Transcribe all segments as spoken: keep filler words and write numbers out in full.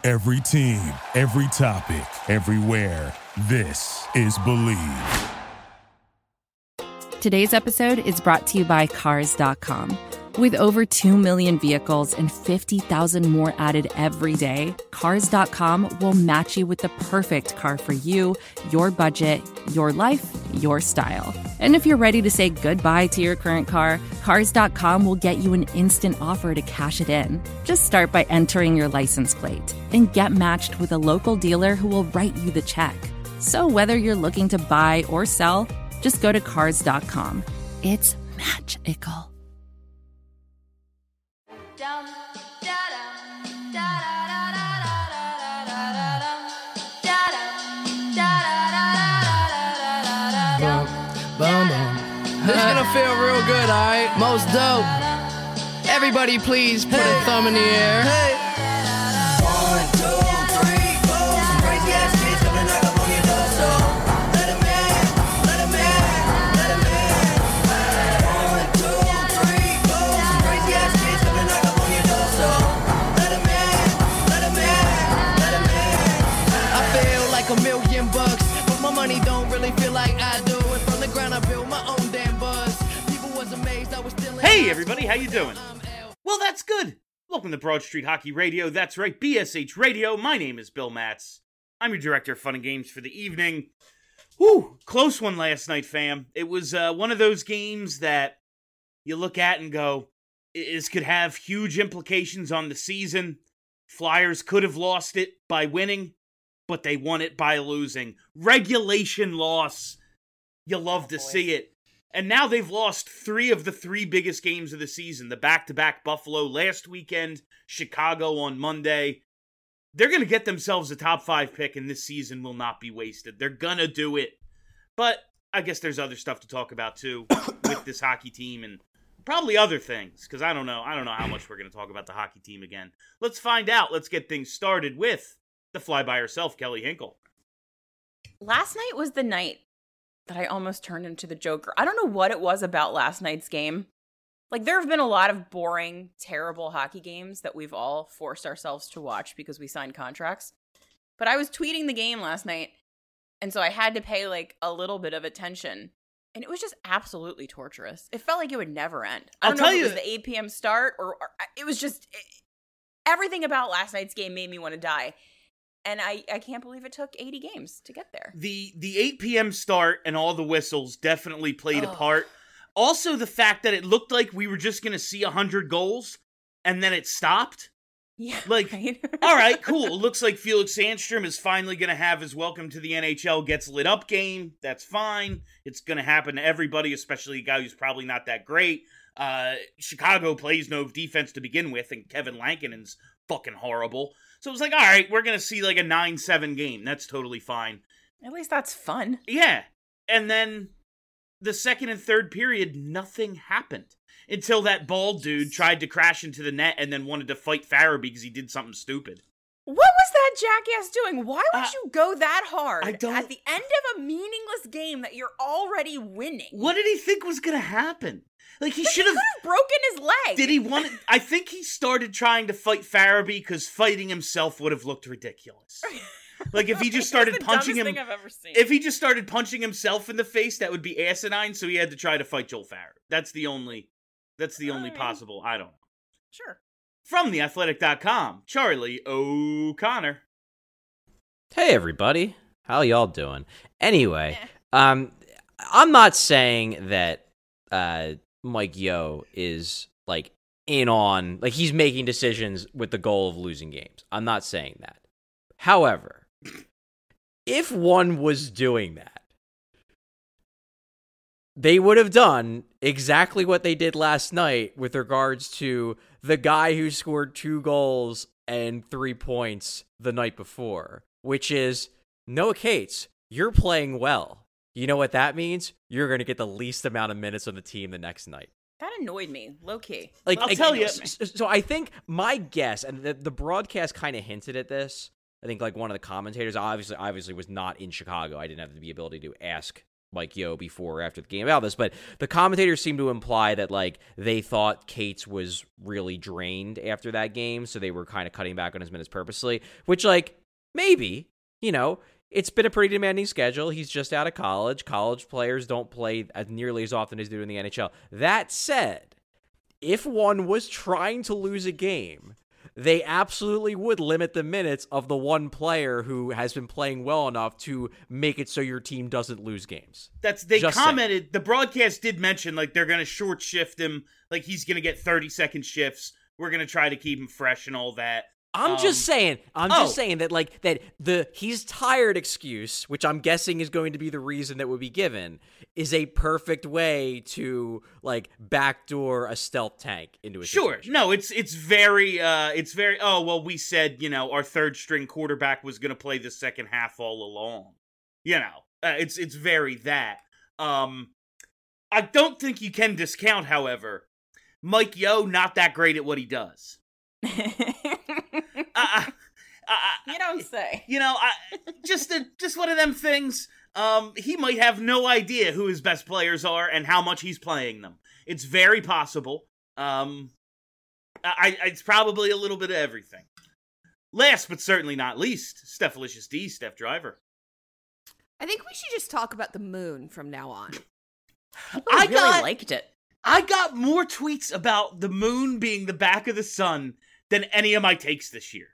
Every team, every topic, everywhere. This is Believe. Today's episode is brought to you by Cars dot com. With over two million vehicles and fifty thousand more added every day, Cars dot com will match you with the perfect car for you, your budget, your life, your style. And if you're ready to say goodbye to your current car, Cars dot com will get you an instant offer to cash it in. Just start by entering your license plate and get matched with a local dealer who will write you the check. So whether you're looking to buy or sell, just go to Cars dot com. It's magical. Boom, boom. This is gonna feel real good, alright? Most dope. Everybody please put hey. a thumb in the air. Hey. One, two, three, four. Some crazy ass kids coming knock up on your door. So let 'em in, let 'em in, let 'em in. One, two, three, four. Some crazy ass kids coming knock up on your door. So let 'em in, let 'em in, let 'em in. I feel like a million bucks, but my money don't really feel like I do. I built my own damn buzz. People was amazed I was still in. Hey everybody, how you doing? Well, that's good. Welcome to Broad Street Hockey Radio. That's right, B S H Radio. My name is Bill Matz. I'm your director of fun and games for the evening. Whew, close one last night, fam. It was uh, one of those games that you look at and go, this could have huge implications on the season. Flyers could have lost it by winning, but they won it by losing. Regulation loss. You love to see it. And now they've lost three of the three biggest games of the season. The back-to-back Buffalo last weekend, Chicago on Monday. They're going to get themselves a top five pick, and this season will not be wasted. They're going to do it. But I guess there's other stuff to talk about, too, with this hockey team and probably other things, because I don't know. I don't know how much we're going to talk about the hockey team again. Let's find out. Let's get things started with the fly-by-herself, Kelly Hinkle. Last night was the night that I almost turned into the Joker. I don't know what it was about last night's game. Like, there have been a lot of boring, terrible hockey games that we've all forced ourselves to watch because we signed contracts. But I was tweeting the game last night, and so I had to pay, like, a little bit of attention. And it was just absolutely torturous. It felt like it would never end. I don't I'll know tell if it you, was the eight p.m. start, or, or it was just... It, everything about last night's game made me want to die. And I, I can't believe it took eighty games to get there. The the eight p.m. start and all the whistles definitely played oh. a part. Also, the fact that it looked like we were just going to see one hundred goals, and then it stopped. Yeah, Like, right? all right, cool. It looks like Felix Sandstrom is finally going to have his welcome to the N H L gets lit up game. That's fine. It's going to happen to everybody, especially a guy who's probably not that great. Uh, Chicago plays no defense to begin with, and Kevin Lankinen's fucking horrible. So it was like, all right, we're going to see like a nine seven game. That's totally fine. At least that's fun. Yeah. And then the second and third period, nothing happened. Until that bald dude tried to crash into the net and then wanted to fight Farabee because he did something stupid. What was that jackass doing? Why would Uh, you go that hard I don't- at the end of a meaningless game that you're already winning? What did he think was going to happen? Like, he But should he have... could have broken his leg. Did he want... I think he started trying to fight Farabee because fighting himself would have looked ridiculous. Like, if he just started It's the punching dumbest him... thing I've ever seen. If he just started punching himself in the face, that would be asinine, so he had to try to fight Joel Farabee. That's the only... That's the only Alright. possible... I don't know. Sure. From the athletic dot com, Charlie O'Connor. Hey everybody, how y'all doing? Anyway, Eh. um, I'm not saying that uh, Mike Yeo is like in on, like he's making decisions with the goal of losing games. I'm not saying that. However, if one was doing that, they would have done exactly what they did last night with regards to the guy who scored two goals and three points the night before, which is, Noah Cates, you're playing well. You know what that means? You're going to get the least amount of minutes on the team the next night. That annoyed me, low key. Like, I'll like, tell you. So, so I think my guess, and the, the broadcast kind of hinted at this. I think like one of the commentators obviously obviously was not in Chicago. I didn't have the ability to ask Mike Yeo before or after the game about this, but the commentators seem to imply that like they thought Cates was really drained after that game, so they were kind of cutting back on his minutes purposely, which like maybe, you know, it's been a pretty demanding schedule. He's just out of college. College players don't play as nearly as often as they do in the N H L. That said, if one was trying to lose a game, they absolutely would limit the minutes of the one player who has been playing well enough to make it so your team doesn't lose games. That's they Just commented, saying. The broadcast did mention, like, they're going to short shift him, like, he's going to get thirty-second shifts. We're going to try to keep him fresh and all that. I'm Um, just saying, I'm oh. just saying that, like, that the he's tired excuse, which I'm guessing is going to be the reason that would be given, is a perfect way to, like, backdoor a stealth tank into a Sure. situation. No, it's it's very, uh, it's very, oh, well, we said, you know, our third string quarterback was going to play the second half all along. You know, uh, it's it's very that. Um, I don't think you can discount, however, Mike Yeo not that great at what he does. uh, uh, You don't say. You know, I, just a, just one of them things. Um, he might have no idea who his best players are and how much he's playing them. It's very possible. Um, I, I it's probably a little bit of everything. Last but certainly not least, Stephalicious D, Steph Driver. I think we should just talk about the moon from now on. People I really got- liked it. I got more tweets about the moon being the back of the sun than any of my takes this year.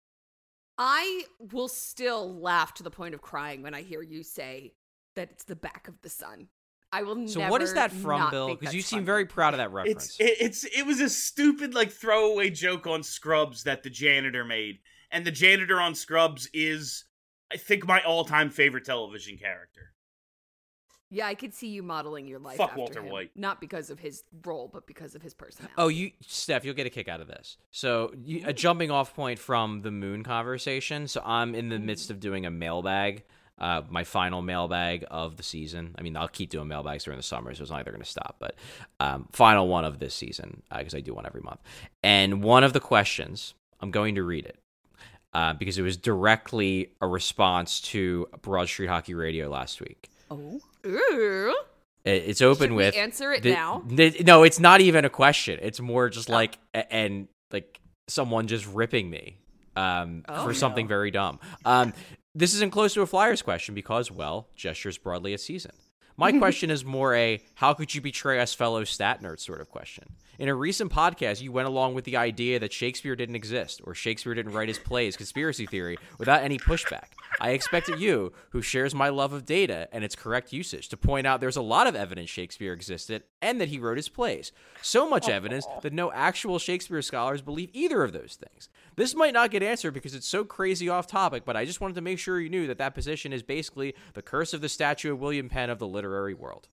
I will still laugh to the point of crying when I hear you say that it's the back of the sun. I will So never what is that from, not Bill? think Because you that's seem funny. very proud of that reference. It's it, it's it was a stupid like throwaway joke on Scrubs that the janitor made, and the janitor on Scrubs is, I think, my all-time favorite television character. Yeah, I could see you modeling your life Fuck after Walter him. White. Not because of his role, but because of his personality. Oh, you, Steph, you'll get a kick out of this. So, you, a jumping off point from the moon conversation. So, I'm in the midst of doing a mailbag, uh, my final mailbag of the season. I mean, I'll keep doing mailbags during the summer, so it's not like they're going to stop. But um, final one of this season, because uh, I do one every month. And one of the questions, I'm going to read it. Uh, because it was directly a response to Broad Street Hockey Radio last week. Oh. Ooh. It- It's open Should we with answer it the- now? the- no, it's not even a question. It's more just like a- and like someone just ripping me um, Oh, for something no. very dumb. Um, this isn't close to a Flyers question because, well, gestures broadly a season. My question is more a how could you betray us fellow stat nerds sort of question. In a recent podcast, you went along with the idea that Shakespeare didn't exist or Shakespeare didn't write his plays conspiracy theory without any pushback. I expected you, who shares my love of data and its correct usage, to point out there's a lot of evidence Shakespeare existed and that he wrote his plays. So much evidence that no actual Shakespeare scholars believe either of those things. This might not get answered because it's so crazy off topic, but I just wanted to make sure you knew that that position is basically the curse of the statue of William Penn of the literary world.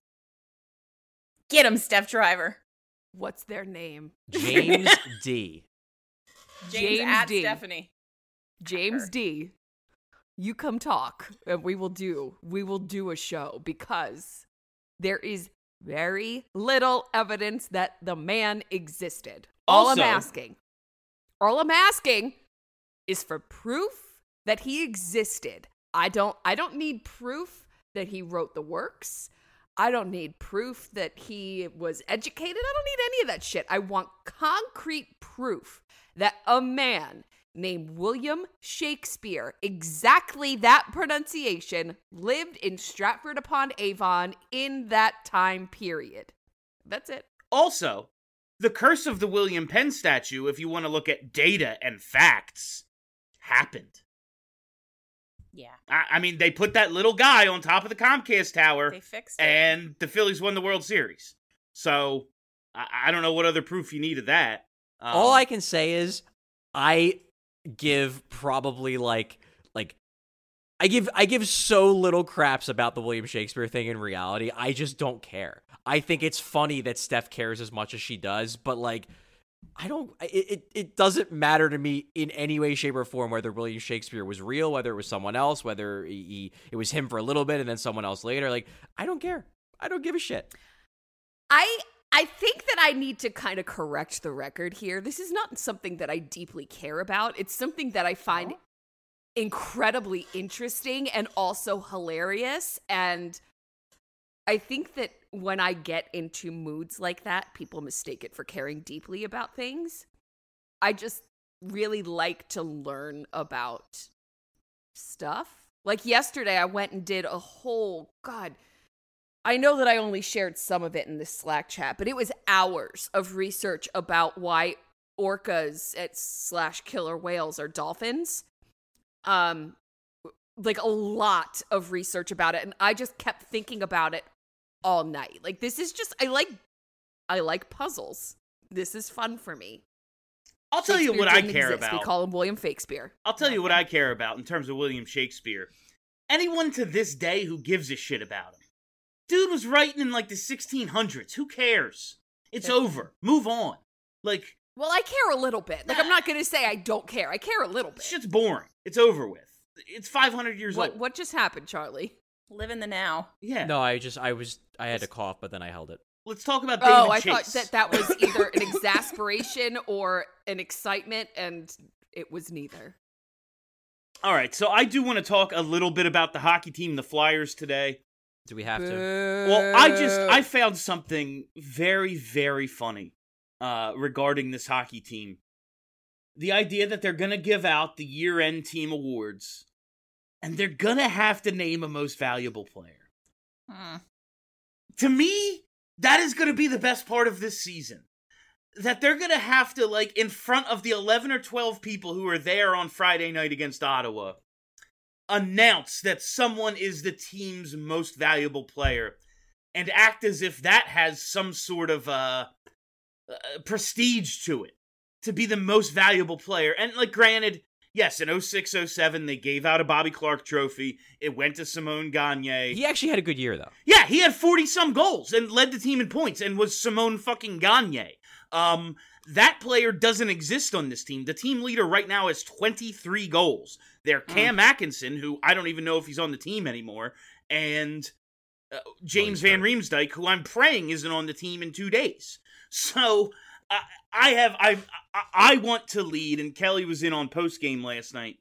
Get him, Steph Driver. What's their name? James D. James, James at D. Stephanie. James Her. D. You come talk, and we will do we will do a show because there is very little evidence that the man existed. All I'm Also- asking, all I'm asking is for proof that he existed. I don't I don't need proof that he wrote the works. I don't need proof that he was educated. I don't need any of that shit. I want concrete proof that a man named William Shakespeare, exactly that pronunciation, lived in Stratford-upon-Avon in that time period. That's it. Also, the curse of the William Penn statue, if you want to look at data and facts, happened. Yeah. I, I mean, they put that little guy on top of the Comcast tower, They fixed it. and the Phillies won the World Series. So, I, I don't know what other proof you need of that. Um, All I can say is I give probably like like I give I give so little craps about the William Shakespeare thing in reality. I just don't care. I think it's funny that Steph cares as much as she does, but like I don't it, it it doesn't matter to me in any way, shape, or form whether William Shakespeare was real, whether it was someone else, whether he, he it was him for a little bit and then someone else later. Like, I don't care. I don't give a shit. I I think that I need to kind of correct the record here. This is not something that I deeply care about. It's something that I find incredibly interesting and also hilarious. And I think that when I get into moods like that, people mistake it for caring deeply about things. I just really like to learn about stuff. Like yesterday, I went and did a whole, God, I know that I only shared some of it in this Slack chat, but it was hours of research about why orcas at slash killer whales are dolphins. Um, like a lot of research about it, and I just kept thinking about it all night. Like this is just, I like, I like puzzles. This is fun for me. I'll tell you what I care exist. about. We call him William Shakespeare. I'll tell you what I care about in terms of William Shakespeare. Anyone to this day who gives a shit about him. Dude was writing in like the sixteen hundreds. Who cares? It's over. Move on. Like, well, I care a little bit. Like, I'm not going to say I don't care. I care a little bit. Shit's boring. It's over with. It's five hundred years what, old. What just happened, Charlie? Live in the now. Yeah. No, I just, I was, I had to cough, but then I held it. Let's talk about David Oh, I Chase. thought that that was either an exasperation or an excitement, and it was neither. All right, so I do want to talk a little bit about the hockey team, the Flyers, today. Do we have to? Well, I just, I found something very, very funny uh, regarding this hockey team. The idea that they're going to give out the year-end team awards, and they're going to have to name a most valuable player. Hmm. To me, that is going to be the best part of this season. That they're going to have to, like, in front of the eleven or twelve people who are there on Friday night against Ottawa, announce that someone is the team's most valuable player and act as if that has some sort of uh, uh, prestige to it, to be the most valuable player. And, like, granted, yes, in oh six oh seven, they gave out a Bobby Clark trophy. It went to Simone Gagne. He actually had a good year, though. Yeah, he had forty-some goals and led the team in points and was Simone fucking Gagne. Um, that player doesn't exist on this team. The team leader right now has twenty-three goals. They're Cam mm. Atkinson, who I don't even know if he's on the team anymore, and uh, James oh, Van Riemsdyk, who I'm praying isn't on the team in two days. So uh, I have I I want to lead, and Kelly was in on postgame last night.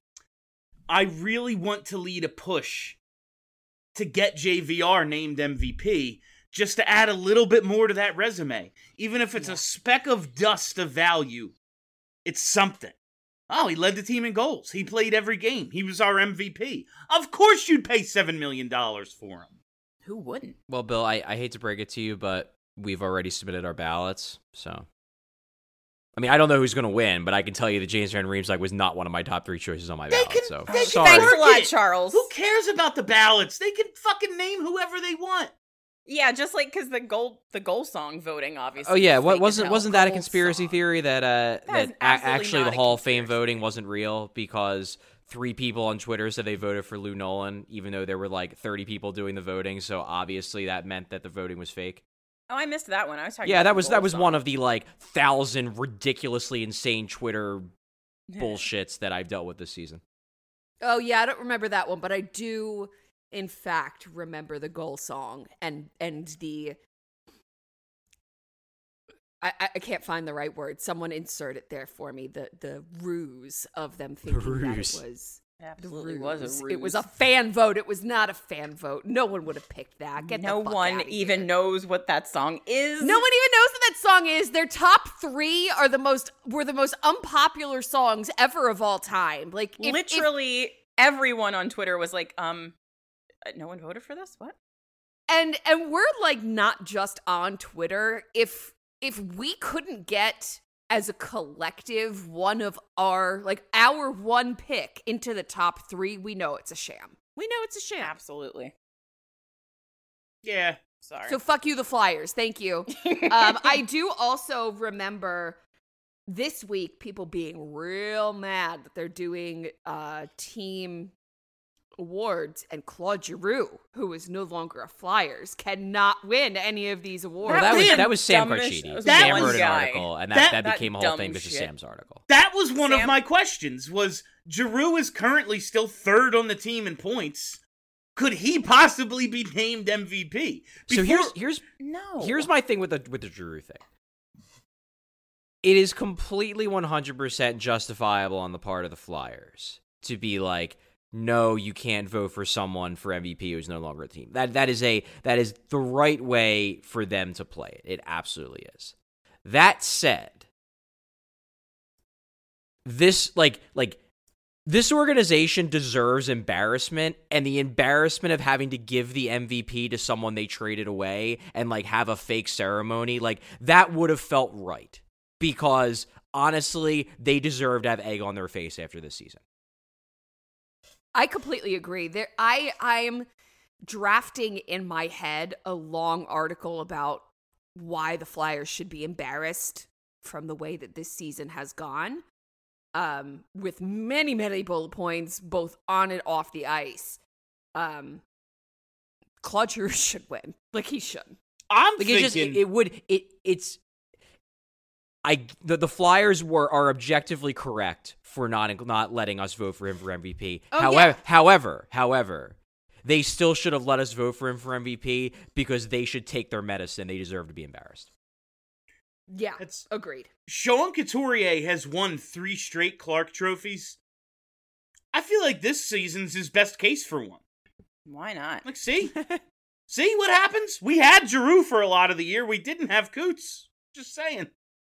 I really want to lead a push to get J V R named M V P, just to add a little bit more to that resume. Even if it's yeah. a speck of dust of value, it's something. Oh, he led the team in goals. He played every game. He was our M V P. Of course you'd pay seven million dollars for him. Who wouldn't? Well, Bill, I, I hate to break it to you, but we've already submitted our ballots, so... I mean, I don't know who's going to win, but I can tell you that James Van Riemsdyk was not one of my top three choices on my they ballot, can, so... They Sorry. can Thanks a lot, it. Charles. Who cares about the ballots? They can fucking name whoever they want. Yeah, just like because the goal, the goal song voting, obviously. Oh yeah, what fake wasn't as hell. wasn't that a Goal conspiracy song. theory that uh That is that a- absolutely actually not the a Hall of Fame conspiracy voting wasn't real because three people on Twitter said they voted for Lou Nolan, even though there were like thirty people doing the voting. So obviously that meant that the voting was fake. Oh, I missed that one. I was talking. Yeah, about that the was goal that was song. one of the like thousand ridiculously insane Twitter bullshits that I've dealt with this season. Oh, yeah, I don't remember that one, but I do, in fact, remember the goal song and and the... I, I can't find the right word. Someone insert it there for me. The the ruse of them thinking that it was... It absolutely was a ruse. It was a fan vote. It was not a fan vote. No one would have picked that. Get no the fuck one outta even here. knows what that song is. No one even knows what that song is. Their top three are the most were the most unpopular songs ever of all time. Like if, literally if, everyone on Twitter was like, "Um, no one voted for this. What?" And and we're like not just on Twitter. If if we couldn't get as a collective one of our like our one pick into the top three, we know it's a sham. We know it's a sham. Absolutely. Yeah. Sorry. So fuck you, the Flyers. Thank you. um, I do also remember this week people being real mad that they're doing uh, team awards, and Claude Giroux, who is no longer a Flyers, cannot win any of these awards. Well, that was Man, that was Sam dumbest- Carchidi. that Sam was wrote an guy. article, and that, That- that, that became a whole dumb thing because of shit. Sam's article. That was one Sam- of my questions, was Giroux is currently still third on the team in points. Could he possibly be named M V P? So Before- here's here's no. here's my thing with the with the Giroux thing. It is completely one hundred percent justifiable on the part of the Flyers to be like, no, you can't vote for someone for M V P who's no longer a team. That that is a that is the right way for them to play it. It absolutely is. That said, this like like this organization deserves embarrassment, and the embarrassment of having to give the M V P to someone they traded away and like have a fake ceremony, like that would have felt right, because honestly, they deserve to have egg on their face after this season. I completely agree. There, I I'm drafting in my head a long article about why the Flyers should be embarrassed from the way that this season has gone, um, with many, many bullet points, both on and off the ice. Um, Claude Giroux should win. Like, he should. I'm like, thinking... It, just, it, it would... It It's... I the, the Flyers were are objectively correct for not not letting us vote for him for M V P. Oh, however, yeah. however, however, they still should have let us vote for him for M V P because they should take their medicine. They deserve to be embarrassed. Yeah, It's- agreed. Sean Couturier has won three straight Clark trophies. I feel like this season's his best case for one. Why not? Like, see? See what happens? We had Giroux for a lot of the year. We didn't have Coots. Just saying.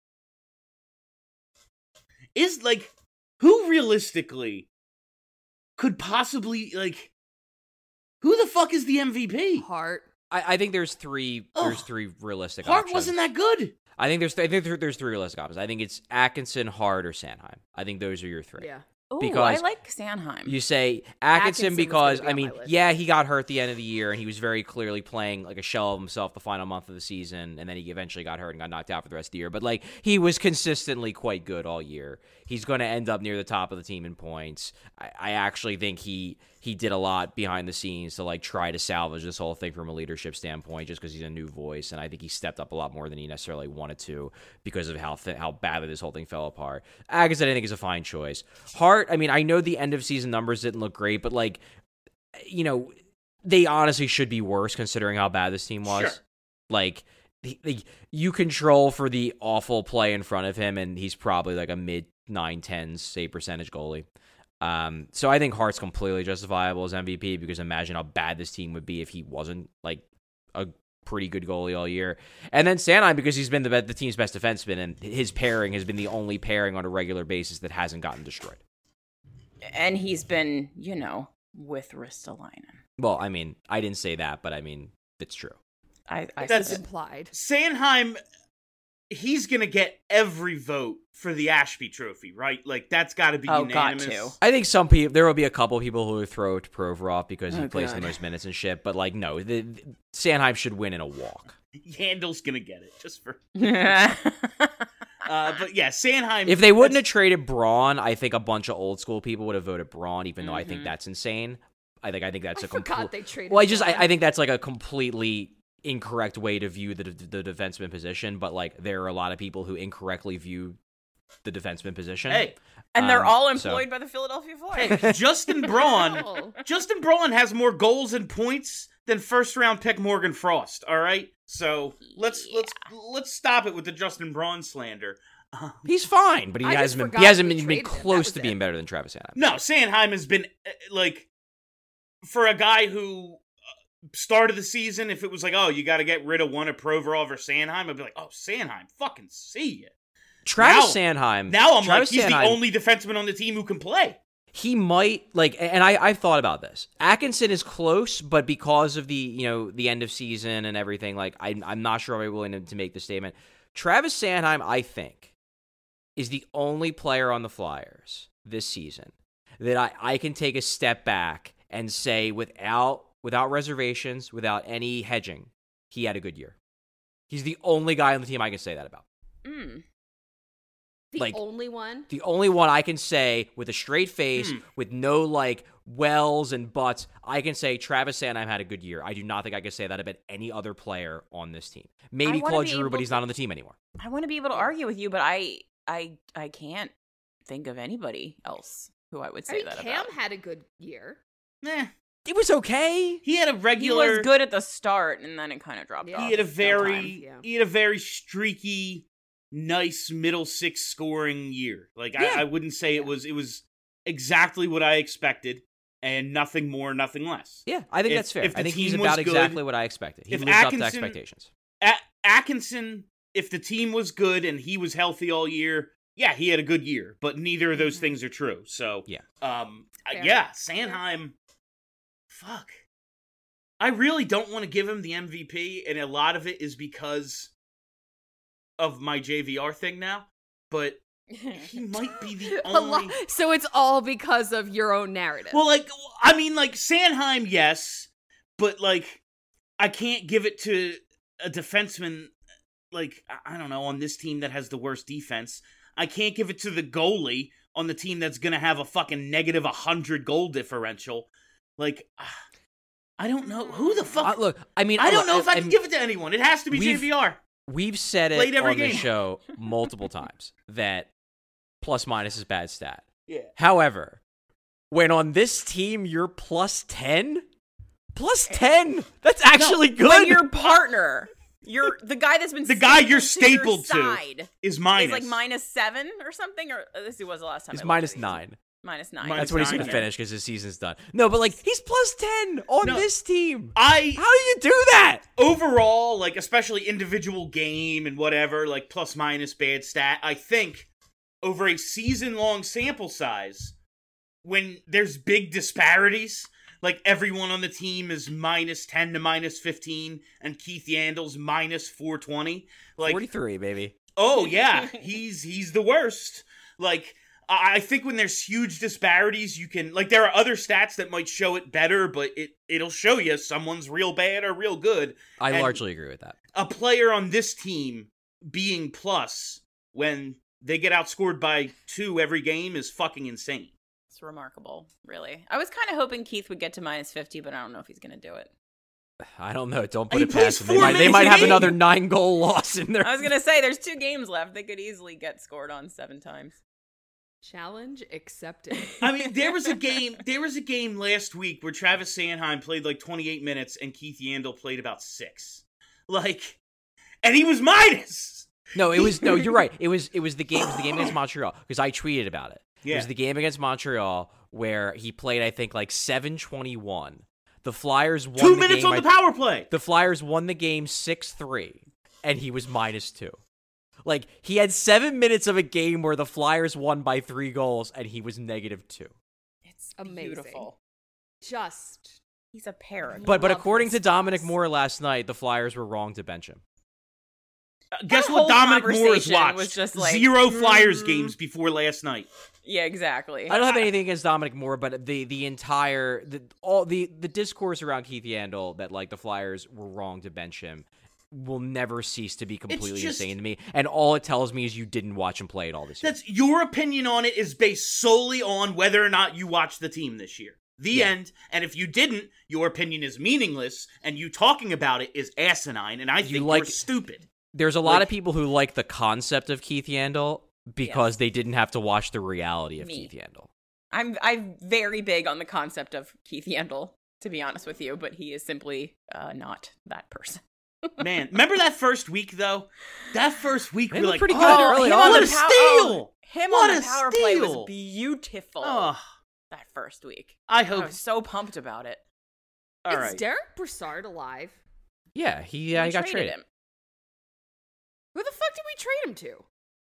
Is, like, who realistically could possibly, like, who the fuck is the M V P? Hart. I, I think there's three. Ugh. There's three realistic. Hart options. wasn't that good. I think there's. I think there- there's three realistic options. I think it's Atkinson, Hart, or Sanheim. I think those are your three. Yeah. Ooh, Because I like Sanheim. You say Atkinson, Atkinson was because, gonna be I on mean, my list. yeah, he got hurt at the end of the year, and he was very clearly playing like a shell of himself the final month of the season, and then he eventually got hurt and got knocked out for the rest of the year. But, like, he was consistently quite good all year. He's going to end up near the top of the team in points. I, I actually think he he did a lot behind the scenes to, like, try to salvage this whole thing from a leadership standpoint just because he's a new voice, and I think he stepped up a lot more than he necessarily wanted to because of how th- how badly this whole thing fell apart. Atkinson, I think, is a fine choice. Hart, I mean, I know the end of season numbers didn't look great, but, like, you know, they honestly should be worse considering how bad this team was. Sure. Like, he, he- you control for the awful play in front of him, and he's probably like a mid nine tens save percentage goalie. Um, so I think Hart's completely justifiable as M V P because imagine how bad this team would be if he wasn't like a pretty good goalie all year. And then Sanheim because he's been the the team's best defenseman, and his pairing has been the only pairing on a regular basis that hasn't gotten destroyed. And he's been, you know, with Ristolainen. Well, I mean, I didn't say that, but I mean, it's true. I, I That's- said- Implied. Sanheim, he's going to get every vote for the Ashby Trophy, right? Like, that's got to be Oh, got unanimous. to. I think some people, there will be a couple people who would throw it to Provorov because he Oh, plays God. the most minutes and shit. But like, no, the, the, Sanheim should win in a walk. Yandel's going to get it, just for... Uh, but yeah, Sanheim... If they wouldn't have that's- traded Braun, I think a bunch of old school people would have voted Braun, even though I think Mhm. that's insane. I think I think that's I a forgot complete. they traded. Well, I just I, Braun. I think that's like a completely incorrect way to view the the defenseman position. But like, there are a lot of people who incorrectly view the defenseman position. Hey, and they're Um, all so- employed by the Philadelphia Flyers. hey, Justin Braun... Oh. Justin Braun has more goals and points than first round pick Morgan Frost, all right? So, let's let's let's stop it with the Justin Braun slander. Um, He's fine, but he I just hasn't been forgot he hasn't we been, been traded him. That close was to it. being better than Travis Sanheim. No, Sanheim has been, uh, like, for a guy who uh, started the season, if it was like, oh, you got to get rid of one of Provorov or Sanheim, I'd be like, oh, Sanheim, fucking see ya. Travis Now- Sanheim. Now I'm Travis like, he's Sanheim, the only defenseman on the team who can play. He might like, and I I've thought about this. Atkinson is close, but because of the you know the end of season and everything, like I'm I'm not sure I'm willing to, to make the statement. Travis Sanheim, I think, is the only player on the Flyers this season that I, I can take a step back and say without without reservations, without any hedging, he had a good year. He's the only guy on the team I can say that about. Mm. The like- only one. The only one I can say with a straight face, Hmm. with no like wells and buts, I can say Travis Sanheim had a good year. I do not think I can say that about any other player on this team. Maybe wanna Claude be Giroux, able but he's to- not on the team anymore. I want to be able to argue with you, but I, I, I can't think of anybody else who I would I say mean, that Cam about. had a good year. Eh, It was okay. he had a He regular... was good at the start, and then it kind of dropped Yeah. off. He had a Sometimes, very, yeah. he had a very streaky, nice middle six scoring year. Like Yeah. I, I wouldn't say it was, it was exactly what I expected. and nothing more, nothing less. Yeah, I think If- that's fair. if the I think he's team was about good- exactly what I expected. He if lived up to Atkinson- expectations. A- Atkinson, if the team was good and he was healthy all year, yeah, he had a good year. But neither of those things are true. So Yeah. um, I- Fair. yeah, Sanheim. Fuck. I really don't want to give him the M V P, and a lot of it is because of my J V R thing now. But he might be the A lo- only. so it's all because of your own narrative. Well, like, I mean, like, Sanheim, yes, but, like, I can't give it to a defenseman, like, I I don't know, on this team that has the worst defense. I can't give it to the goalie on the team that's gonna have a fucking negative one hundred goal differential. Like, I don't know. Who the fuck? Uh, look, I mean, I don't look, know if I can and give it to anyone. It has to be J we've- V R. We've said it Played every on the game. show multiple times that plus minus is bad stat. Yeah. However, when on this team you're plus ten, plus ten, that's actually good. When your partner, you're the guy that's been The guy you're stapled stapled to, your to side is minus. is like minus seven or something, or uh, this was the last time. He's I looked minus at these. nine. Minus nine. Minus That's what he's nine, going to yeah. finish because his season's done. No, but like he's plus ten on No. this team. I How do you do that? overall, like, especially individual game and whatever, like, plus minus bad stat, I think over a season long sample size, when there's big disparities, like everyone on the team is minus ten to minus fifteen, and Keith Yandel's minus four twenty, like, forty-three, baby. oh yeah, he's he's the worst. Like, I I think when there's huge disparities, you can, like, there are other stats that might show it better, but it, it'll show you someone's real bad or real good. I And largely agree with that. a player on this team being plus when they get outscored by two every game is fucking insane. It's remarkable, really. I was kind of hoping Keith would get to minus fifty, but I don't know if he's going to do it. I don't know. Don't put He it plays past them. They four might, they minutes might a have game. another nine goal loss in there. I was going to say, there's two games left. They could easily get scored on seven times. Challenge accepted. I mean, there was a game. There was a game last week where Travis Sanheim played like twenty-eight minutes and Keith Yandel played about six. Like, and he was minus. No, it was no. You're right. It was it was the game. It was the game against Montreal because I tweeted about it. Yeah. It was the game against Montreal where he played. I think like seven twenty-one. The Flyers won Two the minutes game. on the I- power play. The Flyers won the game six three, and he was minus two. Like he had seven minutes of a game where the Flyers won by three goals, and he was negative two. It's Amazing. beautiful. Just He's a paragon. But but love according to this Dominic class. Moore last night, the Flyers were wrong to bench him. Uh, Guess That what whole Dominic Moore has conversation watched? was just like, Zero Flyers mm. games before last night. Yeah, exactly. I don't have anything against Dominic Moore, but the the entire the all the the discourse around Keith Yandel that like the Flyers were wrong to bench him will never cease to be completely just- insane to me. And all it tells me is you didn't watch him play it all this year. That's your opinion on it is based solely on whether or not you watched the team this year. The Yeah. end. And if you didn't, your opinion is meaningless, and you talking about it is asinine, and I You think like- you're stupid. There's a lot like- of people who like the concept of Keith Yandel because they didn't have to watch the reality of Me. Keith Yandel. I'm I'm very big on the concept of Keith Yandel, to be honest with you, but he is simply uh, not that person. Man, remember that first week, though? That first week, They we were looked like, pretty oh, good early him on. on what the a pow- steal! oh, him What on a the power play was steal! beautiful. Oh, That first week. I I hope. was so pumped about it. All is right. Derek Brassard alive? Yeah, he yeah, We he got traded traded. him. Who the fuck did we trade him to?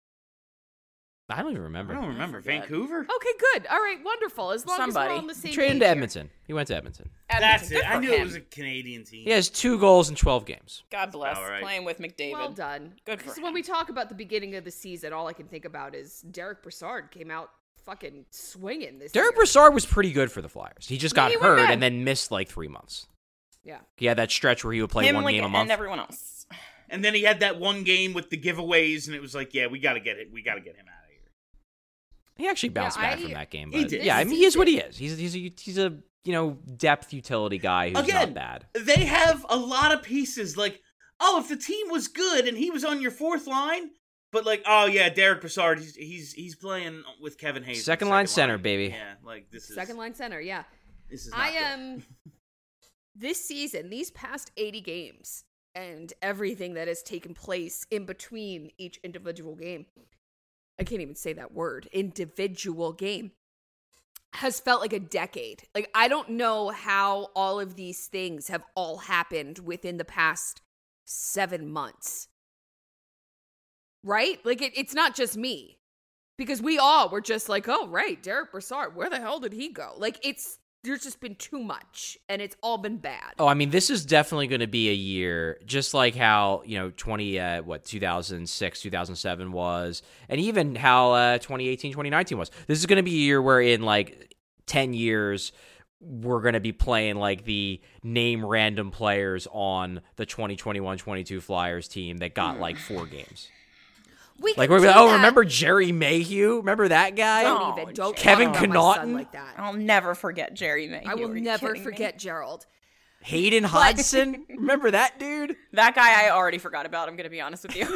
I don't even I remember. don't remember. forget. Vancouver? Okay, good. All right, wonderful. As long Somebody. as we're on the same Traded him page to here. Edmonton. He went to Edmonton. That's Edmonton, it. good I for knew him. it was a Canadian team. He has two goals in twelve games. God bless. All right. Playing with McDavid. Well done. Good for Because him. when we talk about the beginning of the season, all I can think about is Derek Brassard came out fucking swinging this Derek year. Brassard was pretty good for the Flyers. He just got He went hurt bad. and then missed like three months. Yeah. He had that stretch where he would play Him one like, game a and month. everyone else. And then he had that one game with the giveaways, and it was like, yeah, we got to get it. We got to get him out of here. He actually bounced Yeah, back I- from that game. He But did. yeah, I mean, he is what he is. He's he's a, he's a you know depth utility guy who's Again, not bad. they have a lot of pieces. Like, oh, if the team was good and he was on your fourth line, but like, oh yeah, Derek Brassard, he's he's, he's playing with Kevin Hayes. Second line center, baby. Yeah, like this is Second line center, yeah. This is. Not I good. am this season, these past eighty games, and everything that has taken place in between each individual game. I can't even say that word. Individual game has felt like a decade. Like, I don't know how all of these things have all happened within the past seven months. Right? Like, it, it's not just me. Because we all were just like, oh, right, Derek Brassard, where the hell did he go? Like, it's, there's just been too much, and it's all been bad. Oh, I mean, this is definitely going to be a year, just like how, you know, twenty, uh, what, two thousand six, two thousand seven was, and even how uh, twenty eighteen, twenty nineteen was. This is going to be a year where in, like, ten years, we're going to be playing, like, the name random players on the twenty twenty-one twenty-two Flyers team that got, like, four games. We Like, can we're do like, oh, that. remember Jerry Mayhew? Remember that guy? Don't Oh, even. Don't Kevin talk about my son Connaughton? like that. I'll never forget Jerry Mayhew. I will Are you never kidding me? forget Gerald. Hayden Hudson? Remember that dude? That guy I already forgot about, I'm going to be honest with you.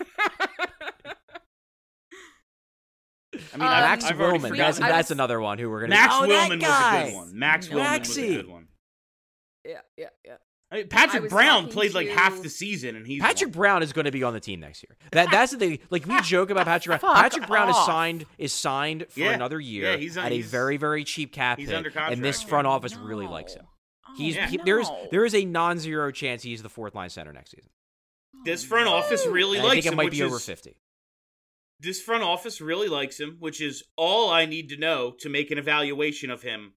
I mean, Um, I've, Max I've already Willman. forgot- That's, forgotten. I that's was- another one who we're going to Max oh, Willman that was a guy. good one. Max Willman was a Maxie. good one. Yeah, yeah, yeah. I mean, I Patrick was Brown talking played like to- half the season, and he's Patrick won. Brown is going to be on the team next year. That that's the thing. Like we joke about Patrick Brown. Fuck Patrick Brown is off. signed is signed for Yeah. another year Yeah, he's on- at a he's- very very cheap cap he's hit, under and this contract. front office really No. likes him. Oh, He's Yeah. he, there's no. there is a non-zero chance he's the fourth line center next season. This front office really And I likes think it him, might which be over is fifty. this front office really likes him, which is all I need to know to make an evaluation of him.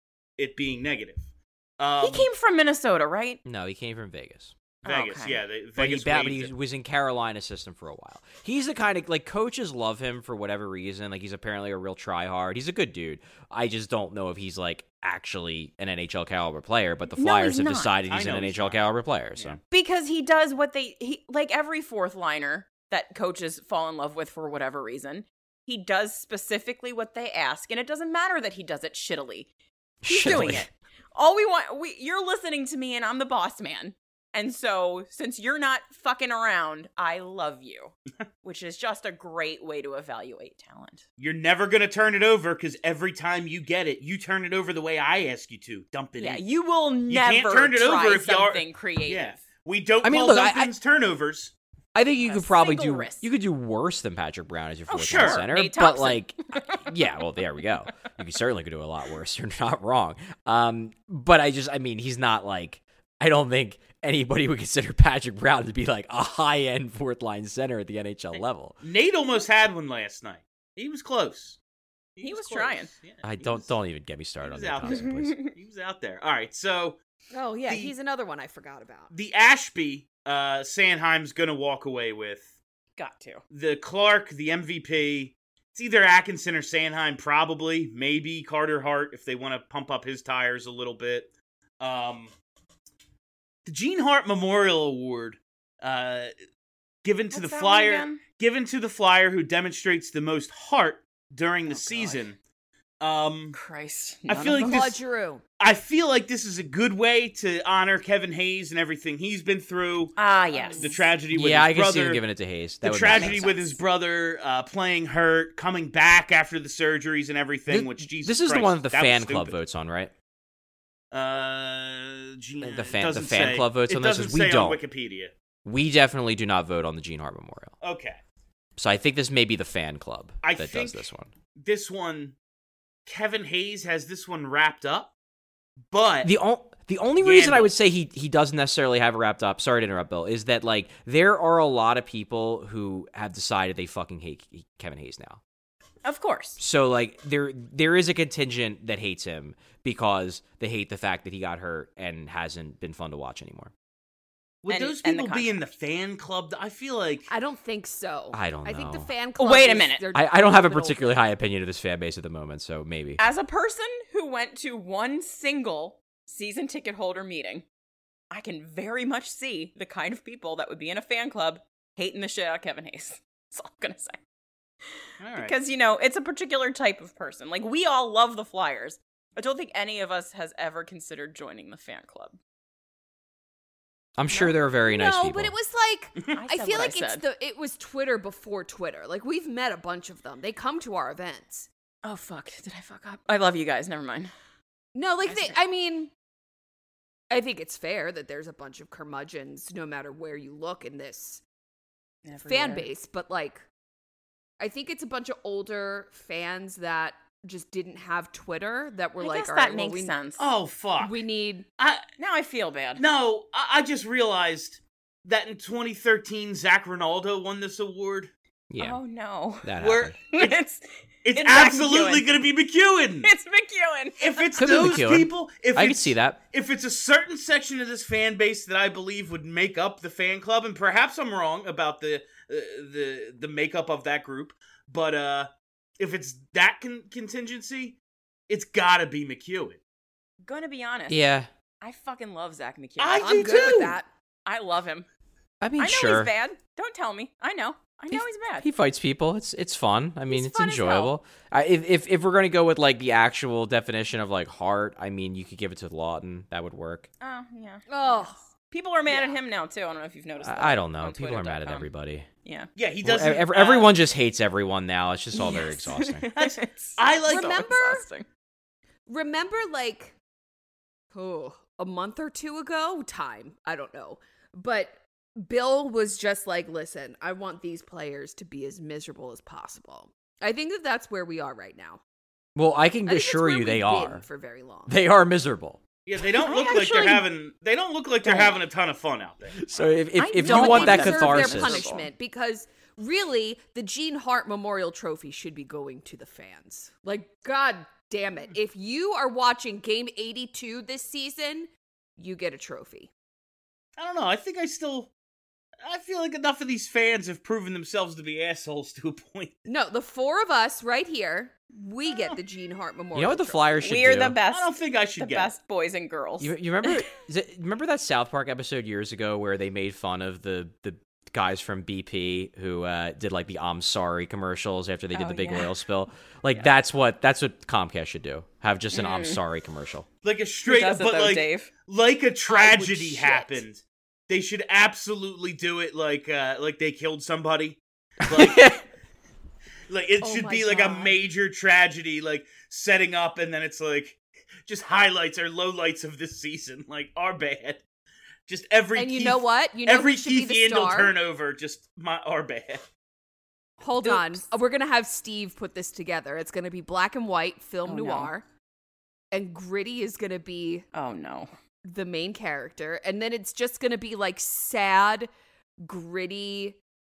It being negative. Um, He came from Minnesota, right? No, he came from Vegas. Vegas, Okay. yeah, they, But he, Vegas. ba- but waived he him. was in Carolina system for a while. He's the kind of like coaches love him for whatever reason. Like he's apparently a real tryhard. He's a good dude. I just don't know if he's like actually an N H L caliber player. But the No, Flyers he's have not. decided I he's know an he's N H L not. caliber player. So Yeah. Because he does what they he like every fourth liner that coaches fall in love with for whatever reason. He does specifically what they ask, and it doesn't matter that he does it shittily. He's doing Shittily. it. All we want, we you're listening to me, and I'm the boss man. And so, since you're not fucking around, I love you, which is just a great way to evaluate talent. You're never gonna turn it over because every time you get it, you turn it over the way I ask you to. Dump it Yeah, in. you will never can't turn it try over if y'all- something creative. Yeah, we don't I mean, call look, I- Duncan's turnovers. I think you A could probably single do risk. you could do worse than Patrick Brown as your Oh, fourth sure. line center. Nate But Thompson. like, yeah, well, there we go. You could certainly could do a lot worse. You're not wrong. Um, but I just, I mean, he's not like. I don't think anybody would consider Patrick Brown to be like a high end fourth line center at the N H L level. Nate almost had one last night. He was close. He was close. trying. Yeah, I he don't was- don't even get me he started on was Nate out Thompson, there. please. He was out there. All right, so Oh, yeah, The- he's another one I forgot about. the Ashby, uh, Sanheim's gonna walk away with Got to. the Clark, the M V P. It's either Atkinson or Sanheim, probably. Maybe Carter Hart if they want to pump up his tires a little bit. Um, the Gene Hart Memorial Award, uh, given to What's the that one Flyer, again? given to the Flyer who demonstrates the most heart during the Oh, God. season. Um, Christ. I none feel of like them. Claude this- Giroux. I feel like this is a good way to honor Kevin Hayes and everything he's been through. Ah, yes. The tragedy with Yeah, I his can brother. see him giving it to Hayes. That the would tragedy make with sense. his brother uh, playing hurt, coming back after the surgeries and everything. This, which Jesus, this is the Christ, one that the that was fan club stupid. votes on, right? Uh, Gene, The fan- it doesn't the fan say. club votes it on this, doesn't is we say don't. on Wikipedia. We definitely do not vote on the Gene Hart Memorial. Okay, So I think this may be the fan club I that think does this one. this one, Kevin Hayes has this one wrapped up, but The o- the only reason I Yandel. would say he he doesn't necessarily have it wrapped up, sorry to interrupt, Bill, is that like there are a lot of people who have decided they fucking hate Kevin Hayes now. Of course. So like there there is a contingent that hates him because they hate the fact that he got hurt and hasn't been fun to watch anymore. would and- those and the people be in the fan club? I feel like I don't think so. I don't I think the know. fan Oh, club. wait a is- minute. they're I, I don't have a middle- particularly high opinion of this fan base at the moment, so maybe. As a person who went to one single season ticket holder meeting, I can very much see the kind of people that would be in a fan club hating the shit out of Kevin Hayes. That's all I'm going to say. all right. Because, you know, it's a particular type of person. Like, we all love the Flyers. I don't think any of us has ever considered joining the fan club. I'm sure there are very nice no, people. but it was like I, I said feel what like it's said. the it was Twitter before Twitter. Like we've met a bunch of them. They come to our events. Oh, fuck. Did I fuck up? I love you guys. Never mind. No, like I they, see. I mean, I think it's fair that there's a bunch of curmudgeons, no matter where you look in this fan Everywhere. base. But like, I think it's a bunch of older fans that just didn't have Twitter that were I like, guess all that right, well, makes we, sense. Oh, fuck. we need. I, Now I feel bad. no, I, I just realized that in twenty thirteen, Zach Ronaldo won this award. Yeah, Oh no. that Where happened. it's It's, It's Zach absolutely McEwen. going to be McEwen. it's McEwen. If it's Could be those McEwen. people, if I it's, could see that. If it's a certain section of this fan base that I believe would make up the fan club, and perhaps I'm wrong about the uh, the the makeup of that group, but uh, if it's that con- contingency, it's got to be McEwen. Gonna be honest. Yeah, I fucking love Zach McEwen. I I'm do good too. with that. I love him. I mean, I know sure. he's bad. Don't tell me. I know. I know He- he's bad. He fights people. It's it's fun. I mean, He's it's fun as hell. enjoyable. I, if if if we're gonna go with like the actual definition of like heart, I mean, you could give it to Lawton. That would work. Oh yeah. Oh, People are mad Yeah. at him now too. I don't know if you've noticed. that I, I don't know. on People are mad at twitter dot com. everybody. Yeah. Yeah, he Well, doesn't. ev- uh, everyone just hates everyone now. It's just all very Yes. exhausting. It's I like- so Remember- exhausting. remember like, oh, a month or two ago? Time. I don't know. But Bill was just like, listen, I want these players to be as miserable as possible. I think that that's where we are right now. Well, I can I think that's assure where you we've they been are. for very long. They are miserable. Yeah, they don't I look like actually they're having. They don't look like they're don't. having a ton of fun out there. So if if, I if you don't want that deserve catharsis, their punishment, because really the Gene Hart Memorial Trophy should be going to the fans. Like, god damn it. If you are watching game eighty-two this season, you get a trophy. I don't know. I think I still. I feel like enough of these fans have proven themselves to be assholes to a point. No, the four of us right here, we get the Gene Hart Memorial you know what the Trophy. Flyers should We're do? the best. I don't think I should the get best boys and girls. You, you remember? Is it, remember that South Park episode years ago where they made fun of the the guys from B P who uh, did like the "I'm sorry" commercials after they did Oh, the big yeah. oil spill? Like that's what that's what Comcast should do. Have just an "I'm sorry" commercial. like a Who straight, does it, but though, like Dave? like a tragedy shit. happened. They should absolutely do it like uh like they killed somebody. Like, like it Oh should my be like a God. major tragedy, like setting up, and then it's like just highlights or lowlights of this season, like are bad. Just every And you Keith- know what? You know every who should be Keith the Yandel star? turnover just my are bad. Hold Oops. on. Uh, We're going to have Steve put this together. It's going to be black and white, film Oh, no. noir. And Gritty is going to be Oh no. the main character. And then it's just going to be like sad, gritty,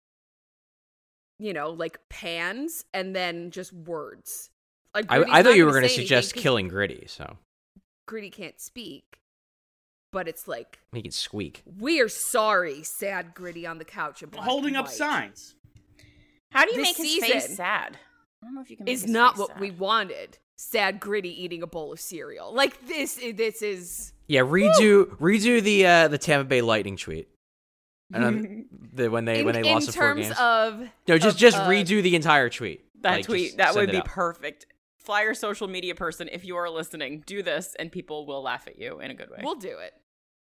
you know, like pans and then just words. Like I, Gritty's I thought not you were gonna going to say suggest anything 'cause killing Gritty, so Gritty can't speak. But it's like, he can squeak. we are sorry, sad Gritty on the couch in black Holding and up white. signs. How do you This make his season face sad? I don't know if you can make Is his not face what sad. we wanted. Sad Gritty eating a bowl of cereal. Like this this is Yeah, redo redo the uh, the Tampa Bay Lightning tweet. And then the when they in, when they in lost the four terms games. of No, just of, just uh, redo the entire tweet. That Like, tweet, just that send would it be out. perfect. Flyer social media person, if you are listening, do this and people will laugh at you in a good way. We'll do it.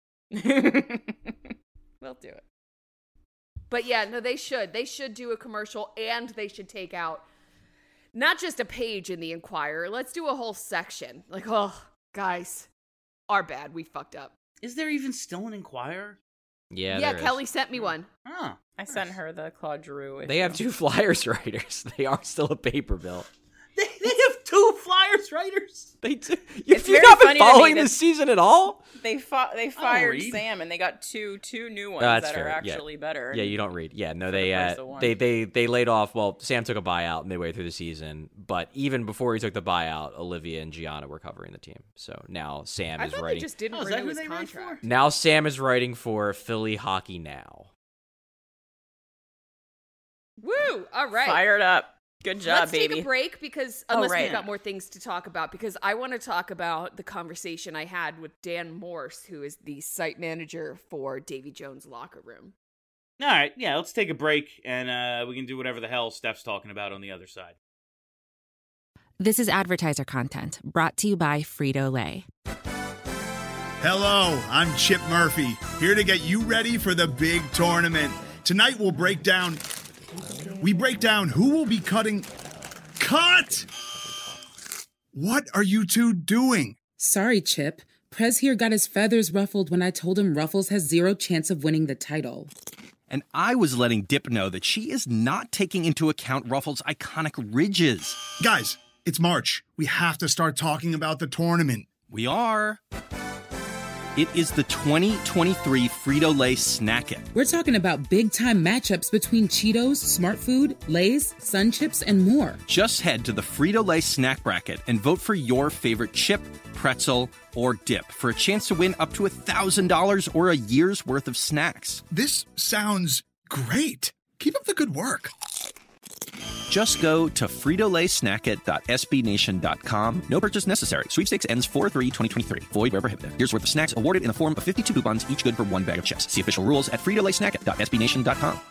we'll do it. But yeah, no, they should. They should do a commercial and they should take out not just a page in the Inquirer. Let's do a whole section. Like, oh, guys, our bad. We fucked up. Is there even still an Inquirer? Yeah, Yeah, there is. Kelly sent me one. Oh, I sent her the Claude Giroux issue. They have two Flyers writers. They are still a paper bill. they, they have two Flyers writers. They do. You, It's you've very not been funny to me following that- this season at all? They fi- they fired read. Sam and they got two two new ones that's that fair, are yeah. actually better. Yeah, you don't read. Yeah, no, for they the price uh, of one. they they they laid off. Well, Sam took a buyout midway through the season, but even before he took the buyout, Olivia and Gianna were covering the team. So now Sam I is thought writing. they just didn't Oh, is that renew who his they write contract. for? Now Sam is writing for Philly Hockey Now. Woo! All right. Fired up. Good job, Let's baby. take a break because Oh, unless right. we've got more things to talk about, because I want to talk about the conversation I had with Dan Morse, who is the site manager for Davy Jones' locker room. All right, yeah, let's take a break, and uh, we can do whatever the hell Steph's talking about on the other side. This is advertiser content brought to you by Frito-Lay. Hello, I'm Chip Murphy, here to get you ready for the big tournament. Tonight we'll break down... We break down who will be cutting... Cut! What are you two doing? Sorry, Chip. Prez here got his feathers ruffled when I told him Ruffles has zero chance of winning the title. And I was letting Dip know that she is not taking into account Ruffles' iconic ridges. Guys, It's March. We have to start talking about the tournament. We are. It is the twenty twenty-three Frito-Lay Snack-It. We're talking about big-time matchups between Cheetos, Smart Food, Lay's, Sun Chips, and more. Just head to the Frito-Lay Snack Bracket and vote for your favorite chip, pretzel, or dip for a chance to win up to one thousand dollars or a year's worth of snacks. This sounds great. Keep up the good work. Just go to frito lay snack it dot s b nation dot com. No purchase necessary. Sweepstakes ends four three twenty twenty-three. Void where prohibited. Here's worth of snacks awarded in the form of fifty-two coupons, each good for one bag of chips. See official rules at frito lay snack it dot s b nation dot com.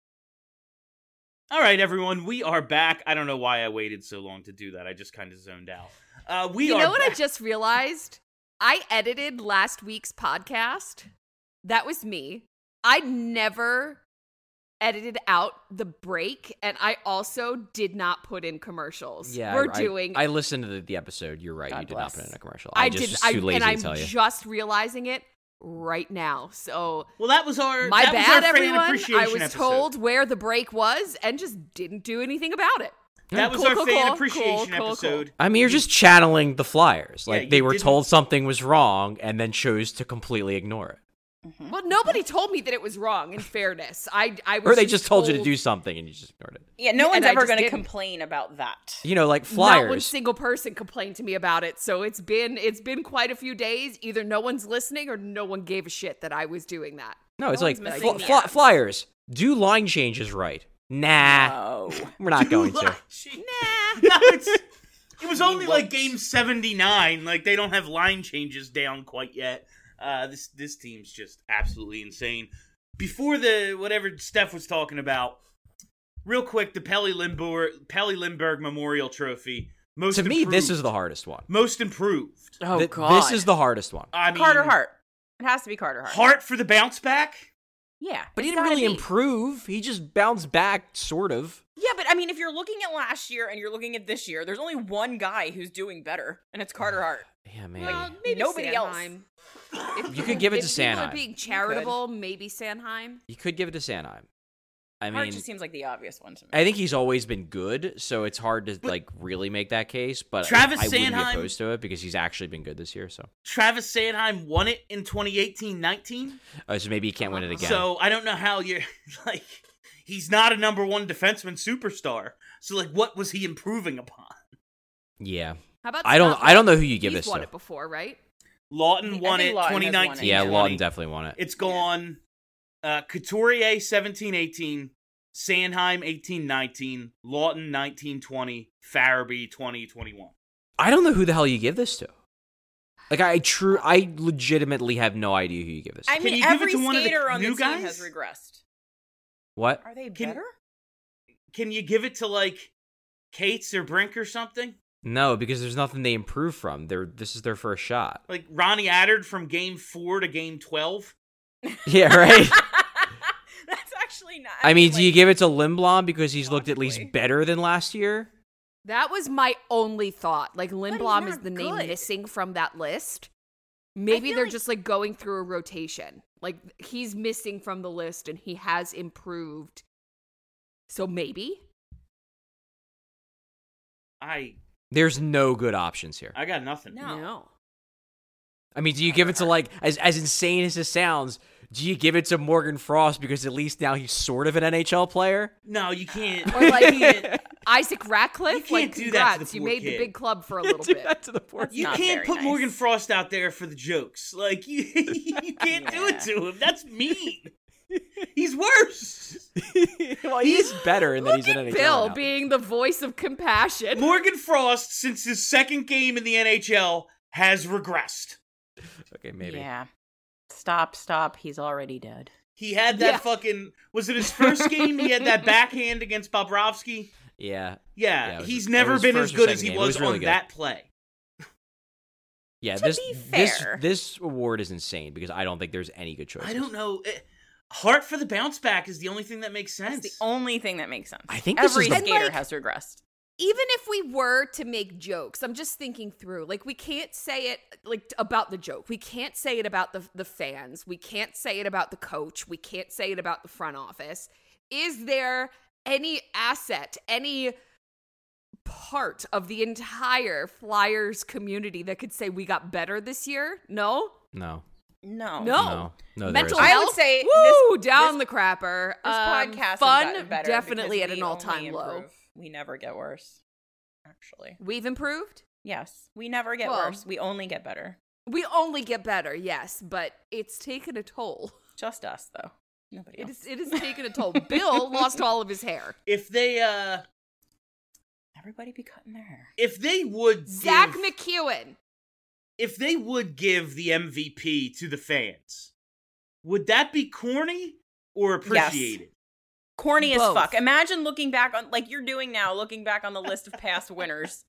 All right, everyone, we are back. I don't know why I waited so long to do that. I just kind of zoned out. Uh, we you are know what back. I just realized? I edited last week's podcast. That was me. I never edited out the break, and I also did not put in commercials. Yeah, we're I, doing. I listened to the, the episode. You're right. God you did bless. not put in a commercial. I, I just did. was I, too lazy and to I'm tell you. just realizing it right now. So Well, that was our my that was bad, our fan everyone. appreciation I was episode. told where the break was and just didn't do anything about it. That was Cool, our cool, fan cool, appreciation cool, cool, episode. cool. I mean, you're just channeling the Flyers. Yeah, Like you they were didn't- told something was wrong and then chose to completely ignore it. Well, nobody told me that it was wrong. In fairness, I I was Or they just told you to told- do something and you just ignored it. Yeah, no Yeah, one's and I ever just going to didn't. complain about that. You know, like Not one Flyers. single person complained to me about it. So it's been it's been quite a few days. Either no one's listening or no one gave a shit that I was doing that. No, it's No like one's fl- missing the fly- abs. Flyers. Do line changes right. Nah, No. we're not going to. Nah. No, it's, it was only like game seventy-nine. Like they don't have line changes down quite yet. Uh, this this team's just absolutely insane. Before the whatever Steph was talking about, real quick, the Pelly Lindbergh Pelly Lindbergh Memorial Trophy. Most To me, improved. this is the hardest one. most improved. Oh, Th- God. This is the hardest one. I mean, Carter Hart. It has to be Carter Hart. Hart for the bounce back. Yeah. But he it's didn't gotta really be. improve. He just bounced back, sort of. Yeah, but I mean, if you're looking at last year and you're looking at this year, there's only one guy who's doing better, and it's Carter Hart. Yeah, maybe. Well, maybe Nobody else. Sanheim. If You could give it if to people Sanheim. are being charitable, maybe Sanheim. You could give it to Sanheim. I Hart mean, just seems like the obvious one to me. I think he's always been good, so it's hard to But- like really make that case. But Travis I, I wouldn't be Sanheim- opposed to it because he's actually been good this year. So, Travis Sanheim won it in twenty eighteen nineteen. uh, so maybe he can't win it again. So I don't know how you're like. He's not a number one defenseman superstar. So like, what was he improving upon? yeah, How about I don't. Scott I don't know Lawton? who you give He's this won to. it before, right? Lawton I won think it Lawton has won twenty it. nineteen. Yeah, twenty. Lawton definitely won it. It's gone. Uh, Couturier seventeen eighteen, Sanheim eighteen nineteen, Lawton nineteen twenty, Farabee twenty twenty-one. I don't know who the hell you give this to. Like I true, I legitimately have no idea who you give this to. I Can mean, you give it every to one of the skater on the new team guys? has regressed. What? Are they Can- better? Can you give it to like Cates or Brink or something? No, because there's nothing they improve from. They're this is their first shot. Like Ronnie Attard from game four to game twelve? Yeah, right. That's actually not. I mean, do you like- give it to Lindblom because he's looked at least Possibly. better than last year? That was my only thought. Like Lindblom is not the name good. missing from that list. Maybe feel they're like- just like going through a rotation. Like he's missing from the list and he has improved. So maybe. I There's no good options here. I got nothing. No. I mean, do you give it to like as as insane as this sounds? Do you give it to Morgan Frost because at least now he's sort of an N H L player? No, you can't. Or like you can't, Isaac Ratcliffe. You can't like do that to the congrats, you poor made kid. the big club for a little Do bit. that to the poor. you not can't very put nice. Morgan Frost out there for the jokes. Like you, you can't do it Yeah. to him. That's mean. He's worse. Well, he's better in that Look he's an at N H L Bill now. being the voice of compassion. Morgan Frost, since his second game in the N H L, has regressed. Okay, maybe. Yeah. Stop, stop. He's already dead. He had that Yeah. fucking. Was it his first game? He had that backhand against Yeah. Bobrovsky. Yeah, Yeah, it was- he's it never was been first as or good as second he game. It was, was really on good. that play. Yeah, To this be this fair- this award is insane because I don't think there's any good choices. I don't know. Eh, Heart for the bounce back is the only thing that makes sense. That's the only thing that makes sense. I think this every is the- skater And, like- has regressed. Even if we were to make jokes, I'm just thinking through. Like, we can't say it like about the joke. We can't say it about the the fans. We can't say it about the coach. We can't say it about the front office. Is there any asset, any part of the entire Flyers community that could say we got better this year? No? No. No. No. No. No, there Mental isn't. I health? would say Woo, this- down this- the crapper. This Um, podcast has fun, gotten better definitely at because an we all-time only low. improve. We never get worse, actually. We've improved? Yes, we never get Well- worse. We only get better. We only get better, yes, but it's taken a toll. Just us, though. Nobody It else. is, it has taken a toll. Bill lost all of his hair. If they, uh, Everybody be cutting their hair. if they would Zach give, McEwen. if they would give the M V P to the fans, would that be corny or appreciated? Corny as Both. fuck. Imagine looking back on, like you're doing now, looking back on the list of past winners.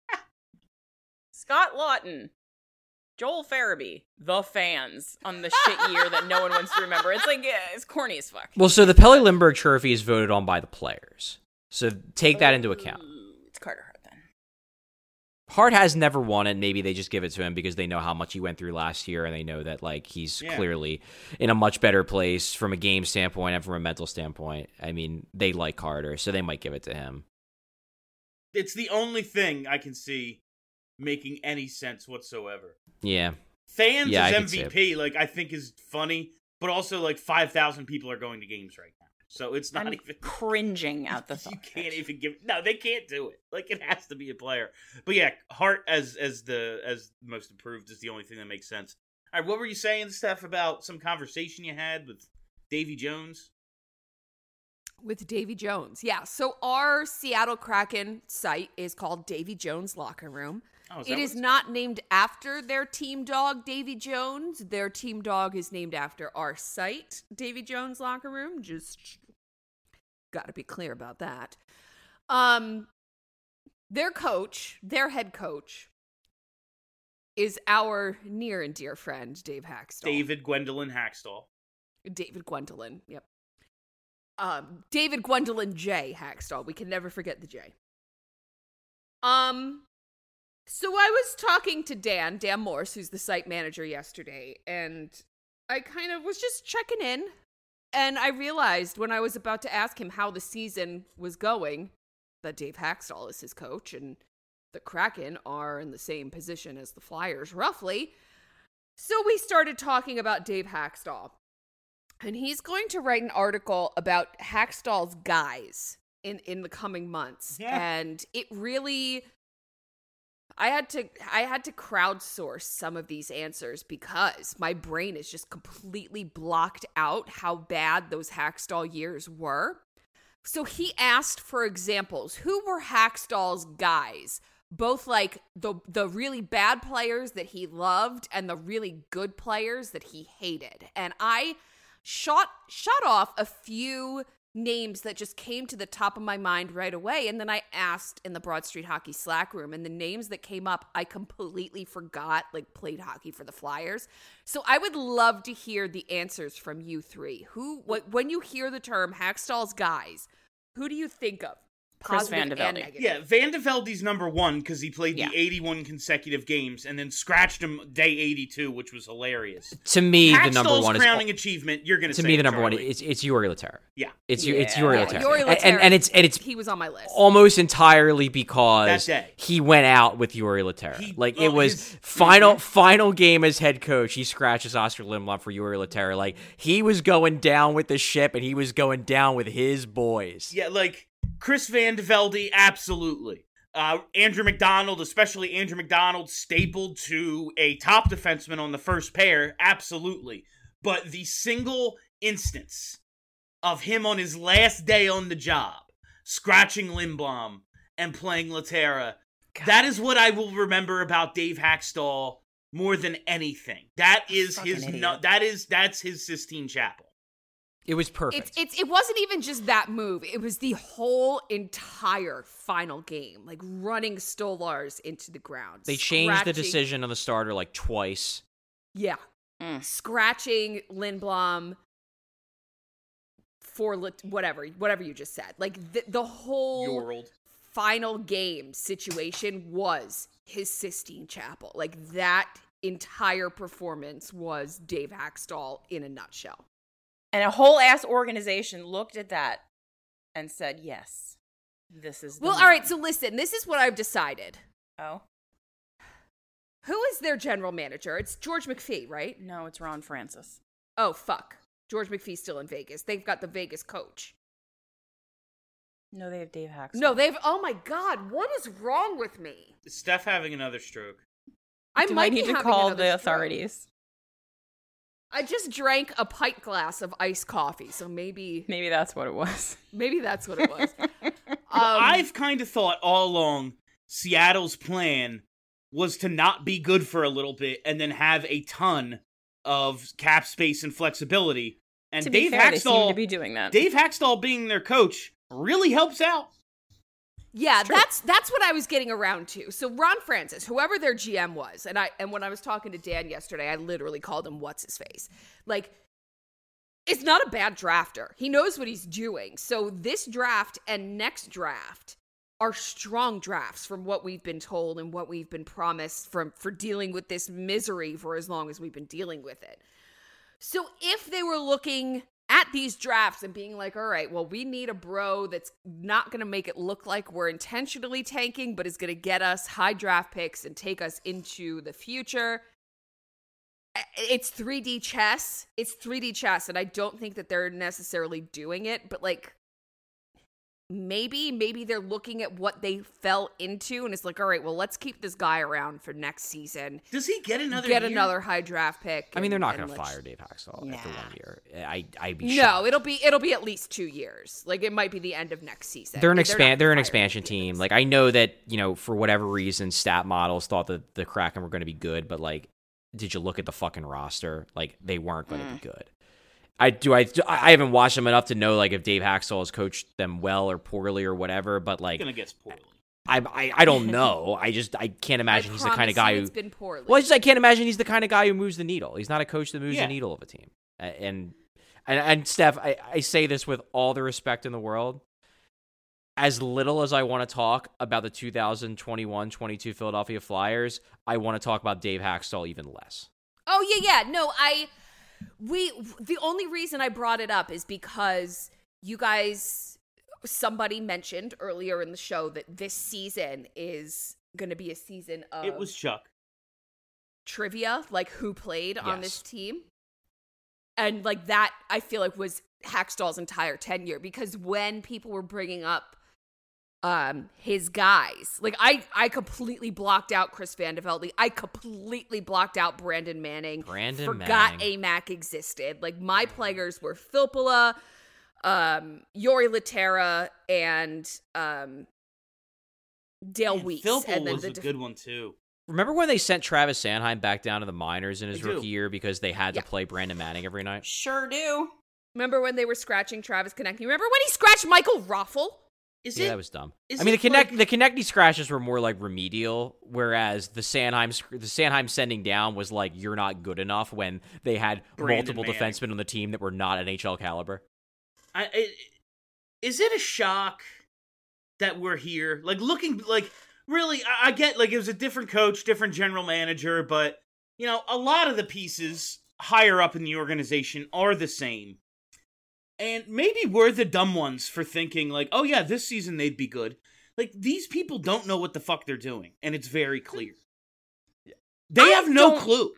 Scott Lawton, Joel Farabee, the fans on the shit year that no one wants to remember. It's like, yeah, it's corny as fuck. Well, so the Pelle Lindbergh Trophy is voted on by the players. So take that into account. Ooh, It's Carter Hart then. Hart has never won it. Maybe they just give it to him because they know how much he went through last year, and they know that like he's Yeah. clearly in a much better place from a game standpoint and from a mental standpoint. I mean, they like Carter, so they might give it to him. It's the only thing I can see making any sense whatsoever. Yeah. Fans Yeah, I as could see M V P, like I think is funny, but also like five thousand people are going to games right now, so it's not I'm even cringing at the you thought. can't even give. No, they can't do it. Like it has to be a player. But yeah, Hart as as the as most improved is the only thing that makes sense. All right, what were you saying, Steph, about some conversation you had with Davy Jones? With Davy Jones. Yeah. So our Seattle Kraken site is called Davy Jones Locker Room. Oh, is that It what is it's not named after their team dog, Davy Jones. Their team dog is named after our site, Davy Jones Locker Room. Just got to be clear about that. Um, their coach, their head coach, is our near and dear friend, Dave Hackstall. David Gwendolyn Hackstall. David Gwendolyn. Yep. Um, David Gwendolyn J. Hackstall. We can never forget the J. Um, so I was talking to Dan, Dan Morse, who's the site manager yesterday, and I kind of was just checking in, and I realized when I was about to ask him how the season was going that Dave Hackstall is his coach, and the Kraken are in the same position as the Flyers, roughly. So we started talking about Dave Hackstall. And he's going to write an article about Hackstall's guys in, in the coming months. Yeah. And it really I had to I had to crowdsource some of these answers because my brain is just completely blocked out how bad those Hackstall years were. So he asked for examples. Who were Hackstall's guys? Both like the the really bad players that he loved and the really good players that he hated. And I shot shot off a few names that just came to the top of my mind right away, and then I asked in the Broad Street Hockey Slack room, and the names that came up I completely forgot, like played hockey for the Flyers. So I would love to hear the answers from you three. Who what, when you hear the term Hackstall's guys, who do you think of? Chris Positive Van de and Velde. negative. Yeah, Van de Velde's number one because he played Yeah. the eighty-one consecutive games and then scratched him day eighty-two, which was hilarious. To me, the number Hackstall's one is crowning achievement. You're going to say me the it, number one. Charlie. It's it's Yuri Laterra. Yeah. It's you. It's Yeah. Yuri Yeah, Laterra. Yuri And- Laterra, and, and it's and it's he was on my list. almost entirely because That day. he went out with Yuri Laterra. He- like oh, it was his- final Mhm. final game as head coach. He scratches Oscar Lindblom for Yuri Laterra. Like he was going down with the ship, and he was going down with his boys. Yeah, like Chris Van de Velde, absolutely. Uh, Andrew McDonald, especially Andrew McDonald, stapled to a top defenseman on the first pair, absolutely. But the single instance of him on his last day on the job, scratching Lindblom and playing Laterra, that is what I will remember about Dave Hackstall more than anything. That is Fucking his. idiot. No, that is that's his Sistine Chapel. It was perfect. It's it's it wasn't even just that move. It was the whole entire final game, like running Stolars into the ground. they changed the scratching- decision on the starter like twice. Yeah, Mm. scratching Lindblom for lit- whatever whatever you just said. Like the the whole Yorld. final game situation was his Sistine Chapel. Like that entire performance was Dave Hackstall in a nutshell. And a whole ass organization looked at that and said, yes, This is the Well, moment. all right, so listen, this is what I've decided. Oh. Who is their general manager? It's George McPhee, right? No, it's Ron Francis. Oh, fuck. George McPhee's still in Vegas. They've got the Vegas coach. No, they have Dave Haxtell. No, they've... Oh, my God. What is wrong with me? Is Steph having another stroke? I Do might I be need to having call another the stroke. authorities? I just drank a pint glass of iced coffee, so maybe... Maybe that's what it was. Maybe that's what it was. um, I've kind of thought all along Seattle's plan was to not be good for a little bit and then have a ton of cap space and flexibility. And To be Dave fair, they seem Haxtell, to be doing that. Dave Haxtell being their coach really helps out. Yeah, that's that's what I was getting around to. So Ron Francis, whoever their G M was, and I and when I was talking to Dan yesterday, I literally called him what's his face. Like, it's not a bad drafter. He knows what he's doing. So this draft and next draft are strong drafts from what we've been told and what we've been promised from for dealing with this misery for as long as we've been dealing with it. So if they were looking at these drafts and being like, all right, well, we need a bro that's not going to make it look like we're intentionally tanking, but is going to get us high draft picks and take us into the future. It's three D chess. It's three D chess. And I don't think that they're necessarily doing it, but like, maybe, maybe they're looking at what they fell into and it's like, all right, well, let's keep this guy around for next season. Does he get another Get year? another high draft pick. I mean, they're and- not and going to let's- fire Dave Haxtell Nah. after one year. I, I'd be No, shocked. it'll be it'll be at least two years. Like it might be the end of next season. They're an not expand. They're an firing expansion him. team. Like I know that you know for whatever reason, stat models thought that the Kraken were going to be good, but like, did you look at the fucking roster? Like they weren't going to Mm. be good. I do. I I haven't watched them enough to know like if Dave Haxtell has coached them well or poorly or whatever. But like, Gonna guess poorly. I I, I don't know. I just I can't imagine I he's the kind of promise guy you who. it's been poorly. Well, I just I can't imagine he's the kind of guy who moves the needle. He's not a coach that moves Yeah. the needle of a team. A- And and and Steph, I, I say this with all the respect in the world. As little as I want to talk about the two thousand twenty-one twenty-two Philadelphia Flyers, I want to talk about Dave Haxtell even less. Oh yeah, yeah. No, I we the only reason I brought it up is because you guys somebody mentioned earlier in the show that this season is going to be a season of It was Chuck. trivia, like who played on Yes. this team. And like that I feel like was Haxtell's entire tenure because when people were bringing up um his guys, like I I completely blocked out Chris Vandevelde. I completely blocked out Brandon Manning. Brandon Forgot Manning. A M A C existed. Like my players were Filppula, um Yori Laterra, and um Dale Man, Weeks. Philpo and then was the a def- good one too. Remember when they sent Travis Sanheim back down to the minors in his I do. rookie year because they had to Yeah. play Brandon Manning every night? Sure do. Remember when they were scratching Travis Konechny? Remember when he scratched Michael Ruffle? Is Yeah, it? that was dumb. is I mean, the it connect like- the Konechny scratches were more like remedial, whereas the Sanheim sc- the Sanheim sending down was like you're not good enough when they had Brandon multiple Manning. defensemen on the team that were not N H L caliber. I, it, is it a shock that we're here? Like looking, like really, I, I get like it was a different coach, different general manager, but you know, a lot of the pieces higher up in the organization are the same. And maybe we're the dumb ones for thinking like, oh yeah, this season they'd be good. Like these people don't know what the fuck they're doing, and it's very clear. They I have no don't- clue.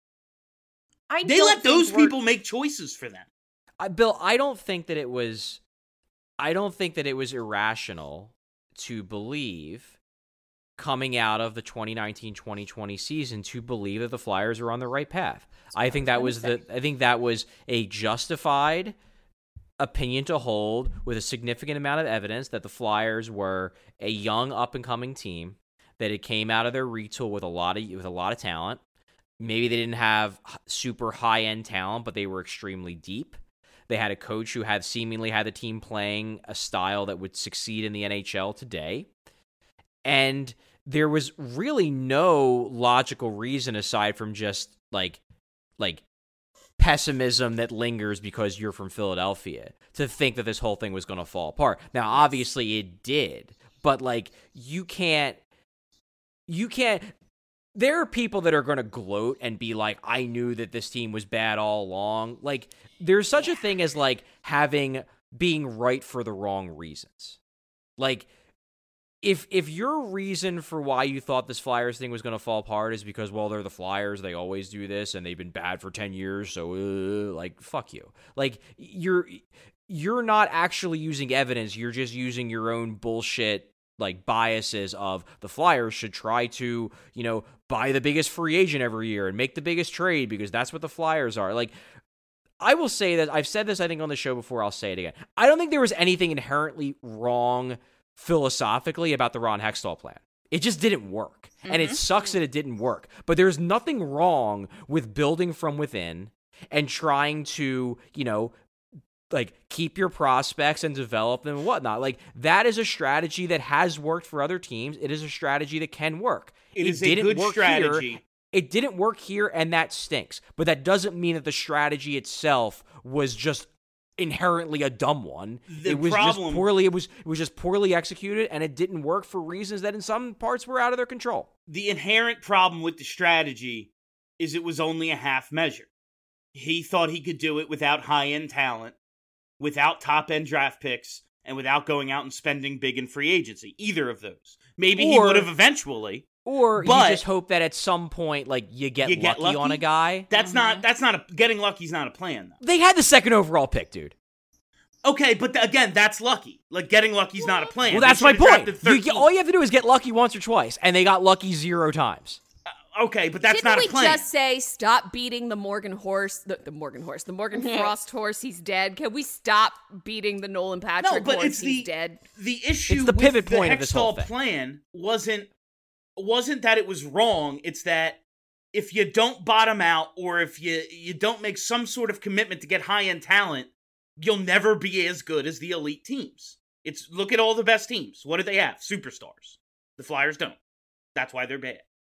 I They don't let those think we're- people make choices for them. I, Bill, I don't think that it was, I don't think that it was irrational to believe coming out of the twenty nineteen twenty twenty season to believe that the Flyers were on the right path. I think that was the, I think that was a justified opinion to hold with a significant amount of evidence that the Flyers were a young up and coming team, that it came out of their retool with a lot of with a lot of talent. Maybe they didn't have super high end talent, but they were extremely deep. They had a coach who had seemingly had the team playing a style that would succeed in the N H L today. And there was really no logical reason aside from just like like pessimism that lingers because you're from Philadelphia to think that this whole thing was going to fall apart. Now, obviously it did, but like you can't you can't there are people that are going to gloat and be like, I knew that this team was bad all along. Like there's such a thing as like having being right for the wrong reasons. Like if if your reason for why you thought this Flyers thing was going to fall apart is because, well, they're the Flyers, they always do this, and they've been bad for ten years, so, uh, like, fuck you. Like, you're you're not actually using evidence, you're just using your own bullshit, like, biases of the Flyers should try to, you know, buy the biggest free agent every year and make the biggest trade because that's what the Flyers are. Like, I will say that, I've said this, I think, on the show before, I'll say it again. I don't think there was anything inherently wrong philosophically about the Ron Hextall plan. It just didn't work. Mm-hmm. And it sucks that it didn't work. But there's nothing wrong with building from within and trying to, you know, like keep your prospects and develop them and whatnot. Like that is a strategy that has worked for other teams. It is a strategy that can work. It, it is a good strategy. Here. It didn't work here, and that stinks. But that doesn't mean that the strategy itself was just inherently a dumb one. The it was problem, just poorly it was it was just poorly executed, and it didn't work for reasons that in some parts were out of their control. The inherent problem with the strategy is it was only a half measure. He thought he could do it without high-end talent, without top-end draft picks, and without going out and spending big in free agency. Either of those. Maybe or, he would have eventually. Or but you just hope that at some point, like, you get, you lucky, get lucky on a guy. That's Mm-hmm. not, that's not a, getting lucky's not a plan, though. They had the second overall pick, dude. Okay, but th- again, that's lucky. Like, getting lucky's not a plan. Well, that's They my should've point. drafted You, all you have to do is get lucky once or twice, and they got lucky zero times. Uh, okay, but that's Didn't not we a plan. just say stop beating the Morgan horse, the, the Morgan horse, the Morgan Frost horse? He's dead. Can we stop beating the Nolan Patrick no, but horse? it's He's the, dead. The issue It's the with pivot the point of this whole Hextall thing. plan wasn't wasn't that it was wrong. It's that if you don't bottom out or if you you don't make some sort of commitment to get high end talent, you'll never be as good as the elite teams. It's look at all the best teams. What do they have? Superstars. The Flyers don't. That's why they're bad.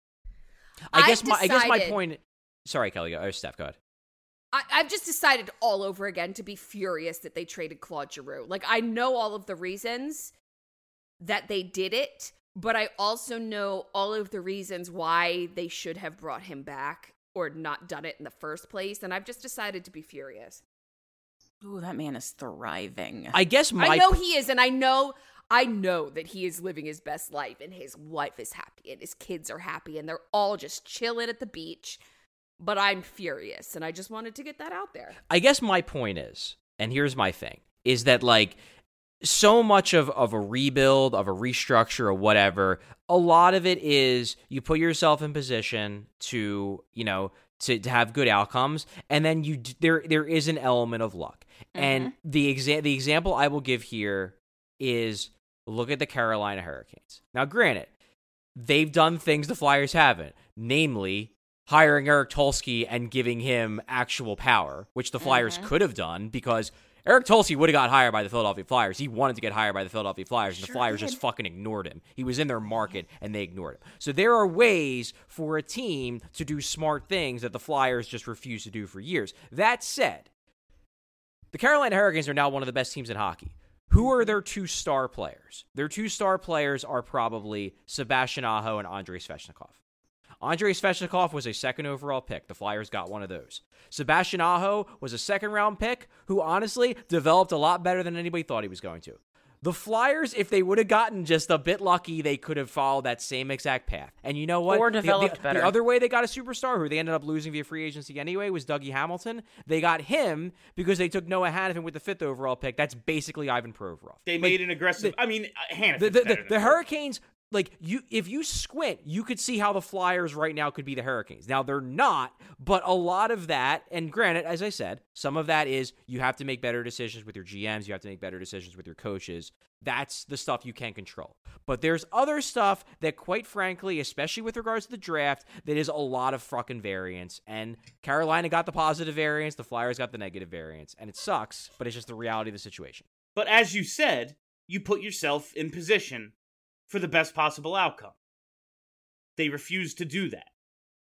I guess I've my I guess my decided- point. Sorry, Kelly. Go. Oh, Steph, go ahead. I, I've just decided all over again to be furious that they traded Claude Giroux. Like, I know all of the reasons that they did it, but I also know all of the reasons why they should have brought him back or not done it in the first place, and I've just decided to be furious. Ooh, that man is thriving. I guess my. I know he is, and I know I know that he is living his best life, and his wife is happy, and his kids are happy, and they're all just chilling at the beach. But I'm furious, and I just wanted to get that out there. I guess my point is, and here's my thing, is that, like, so much of, of a rebuild, of a restructure, or whatever, a lot of it is you put yourself in position to, you know, to, to have good outcomes, and then you there there is an element of luck. Mm-hmm. And the exa- the example I will give here is look at the Carolina Hurricanes. Now, granted, they've done things the Flyers haven't, namely hiring Eric Tulsky and giving him actual power, which the Flyers mm-hmm. could have done because Eric Tulsky would have got hired by the Philadelphia Flyers. He wanted to get hired by the Philadelphia Flyers, and sure the Flyers did. Just fucking ignored him. He was in their market, and they ignored him. So there are ways for a team to do smart things that the Flyers just refuse to do for years. That said, the Carolina Hurricanes are now one of the best teams in hockey. Who are their two star players? Their two star players are probably Sebastian Aho and Andrei Svechnikov. Andrei Svechnikov was a second overall pick. The Flyers got one of those. Sebastian Aho was a second round pick who honestly developed a lot better than anybody thought he was going to. The Flyers, if they would have gotten just a bit lucky, they could have followed that same exact path. And you know what? Or developed the, the, better. The other way they got a superstar who they ended up losing via free agency anyway was Dougie Hamilton. They got him because they took Noah Hanifin with the fifth overall pick. That's basically Ivan Provorov. They like, made an aggressive... The, I mean, Hanifin. The, the, the, the Hurricanes... Like, you, if you squint, you could see how the Flyers right now could be the Hurricanes. Now, they're not, but a lot of that, and granted, as I said, some of that is you have to make better decisions with your G Ms, you have to make better decisions with your coaches. That's the stuff you can control. But there's other stuff that, quite frankly, especially with regards to the draft, that is a lot of fucking variance. And Carolina got the positive variance, the Flyers got the negative variance. And it sucks, but it's just the reality of the situation. But as you said, you put yourself in position for the best possible outcome. They refused to do that.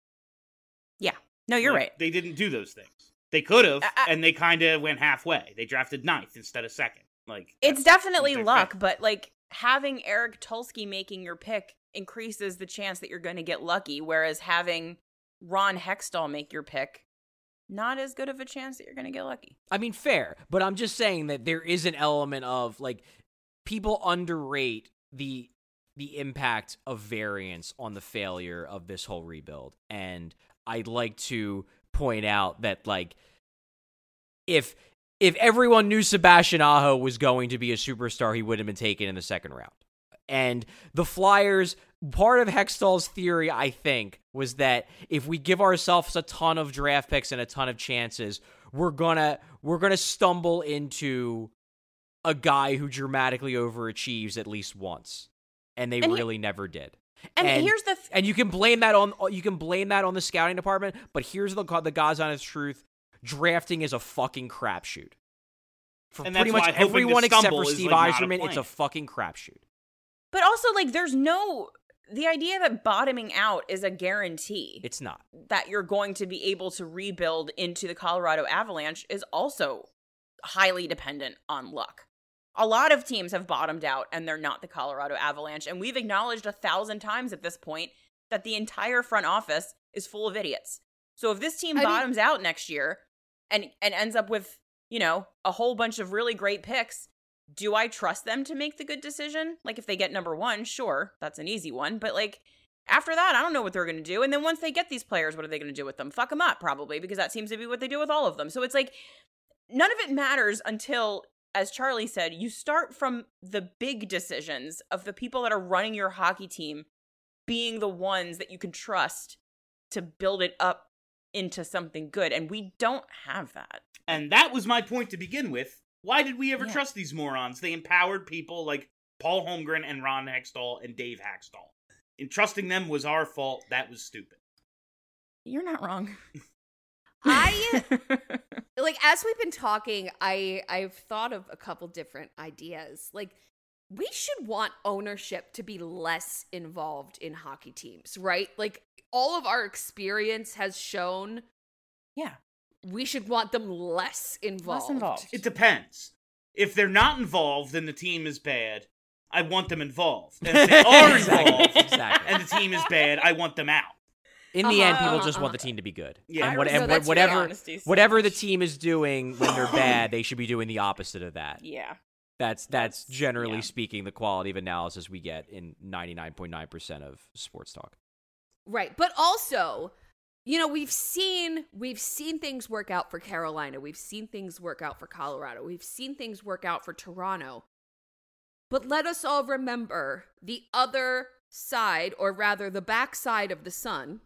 Yeah. No, you're like, right. They didn't do those things. They could have, I, I, and they kind of went halfway. They drafted ninth instead of second. Like It's definitely luck, fair. But like having Eric Tulsky making your pick increases the chance that you're going to get lucky, whereas having Ron Hextall make your pick, not as good of a chance that you're going to get lucky. I mean, fair, but I'm just saying that there is an element of, like, people underrate the the impact of variance on the failure of this whole rebuild. And I'd like to point out that, like, if if everyone knew Sebastian Aho was going to be a superstar, he would have been taken in the second round. And the Flyers, part of Hextall's theory, I think, was that if we give ourselves a ton of draft picks and a ton of chances, we're gonna we're gonna stumble into a guy who dramatically overachieves at least once. And they and really he, never did. And, and here's the th- and you can blame that on you can blame that on the scouting department, but here's the the God's honest truth: drafting is a fucking crapshoot. For and pretty much everyone except for Steve like Yzerman, it's a fucking crapshoot. But also, like, there's no the idea that bottoming out is a guarantee. It's not that you're going to be able to rebuild into the Colorado Avalanche is also highly dependent on luck. A lot of teams have bottomed out, and they're not the Colorado Avalanche. And we've acknowledged a thousand times at this point that the entire front office is full of idiots. So if this team I bottoms mean, out next year and and ends up with, you know, a whole bunch of really great picks, do I trust them to make the good decision? Like, if they get number one, sure, that's an easy one. But, like, after that, I don't know what they're going to do. And then once they get these players, what are they going to do with them? Fuck them up, probably, because that seems to be what they do with all of them. So it's like, none of it matters until, as Charlie said, you start from the big decisions of the people that are running your hockey team being the ones that you can trust to build it up into something good. And we don't have that. And that was my point to begin with. Why did we ever yeah. trust these morons? They empowered people like Paul Holmgren and Ron Hextall and Dave Haxtell. And trusting them was our fault. That was stupid. You're not wrong. I, like, as we've been talking, I, I've thought of a couple different ideas. Like, we should want ownership to be less involved in hockey teams, right? Like, all of our experience has shown... Yeah. We should want them less involved. Less involved. It depends. If they're not involved and the team is bad, I want them involved. And if they are involved exactly. and the team is bad, I want them out. In the uh-huh, end, people just uh-huh. want the team to be good. Yeah. And, what, no, and what, that's whatever honesty, so whatever the much. team is doing when they're bad, they should be doing the opposite of that. Yeah. That's that's generally yeah. speaking the quality of analysis we get in ninety-nine point nine percent of sports talk. Right. But also, you know, we've seen we've seen things work out for Carolina. We've seen things work out for Colorado. We've seen things work out for Toronto. But let us all remember the other side, or rather the backside of the sun,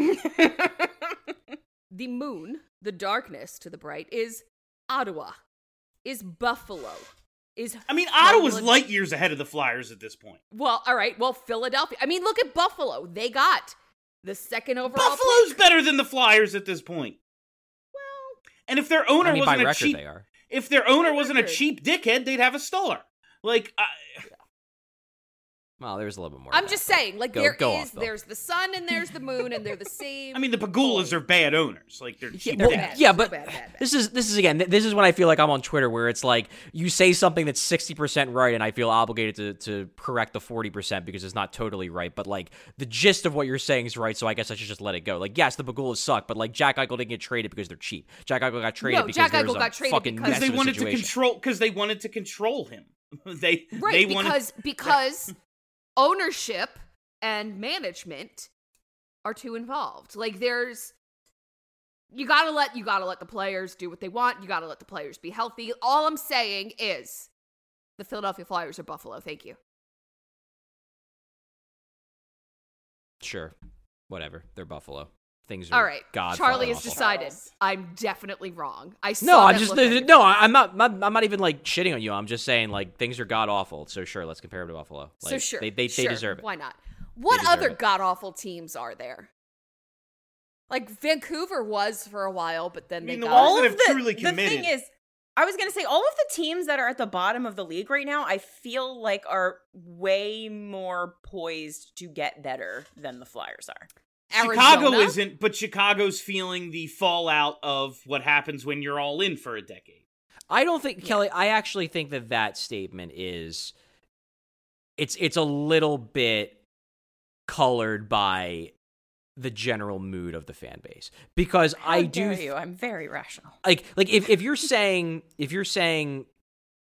the moon, the darkness to the bright, is Ottawa, is Buffalo, is I mean, Ottawa's Philadelphia. light years ahead of the Flyers at this point. Well, all right. Well, Philadelphia. I mean, look at Buffalo. They got the second overall Buffalo's pick. better than the Flyers at this point. Well, and if their owner I mean, by wasn't a record cheap, they are. if their owner By wasn't a record. cheap dickhead, they'd have a star. Like, I, Well, there's a little bit more. I'm to just that, saying, like, Go- there go is, off, Bill. there's the sun and there's the moon, and they're the same. I mean, the Pagulas are bad owners. Like, they're cheap. they're Well, bad. yeah, So but bad, bad, bad. this is this is again th- this is when I feel like I'm on Twitter, where it's like you say something that's sixty percent right, and I feel obligated to to correct the forty percent because it's not totally right. But like the gist of what you're saying is right, so I guess I should just let it go. Like, yes, the Pagulas suck, but like Jack Eichel didn't get traded because they're cheap. Jack Eichel got traded No, because Jack there was Eichel a got traded fucking because mess Because they of a wanted to situation. control. Because they wanted to control him. they right, they wanted because because ownership and management are too involved. Like, there's you gotta let you gotta let the players do what they want. You gotta let the players be healthy. All I'm saying is the Philadelphia Flyers are Buffalo. Thank you. Sure, whatever. They're Buffalo. Things All are right, God. Charlie fucking has awful. decided I'm definitely wrong. I saw No, I'm that just look on your no. face. I'm not. I'm I'm not even like shitting on you. I'm just saying like things are god awful. So sure, let's compare them to Buffalo. Like, So sure, they they, sure, they deserve it. Why not? What deserve other it. god awful teams are there? Like, Vancouver was for a while, but then I mean, they the got ones All that of have the, truly the committed. thing is, I was going to say, all of the teams that are at the bottom of the league right now, I feel like are way more poised to get better than the Flyers are. Chicago Arizona? isn't, but Chicago's feeling the fallout of what happens when you're all in for a decade. I don't think Kelly. I actually think that that statement is it's it's a little bit colored by the general mood of the fan base, because How I dare do you? I'm very rational. like like if, if you're saying if you're saying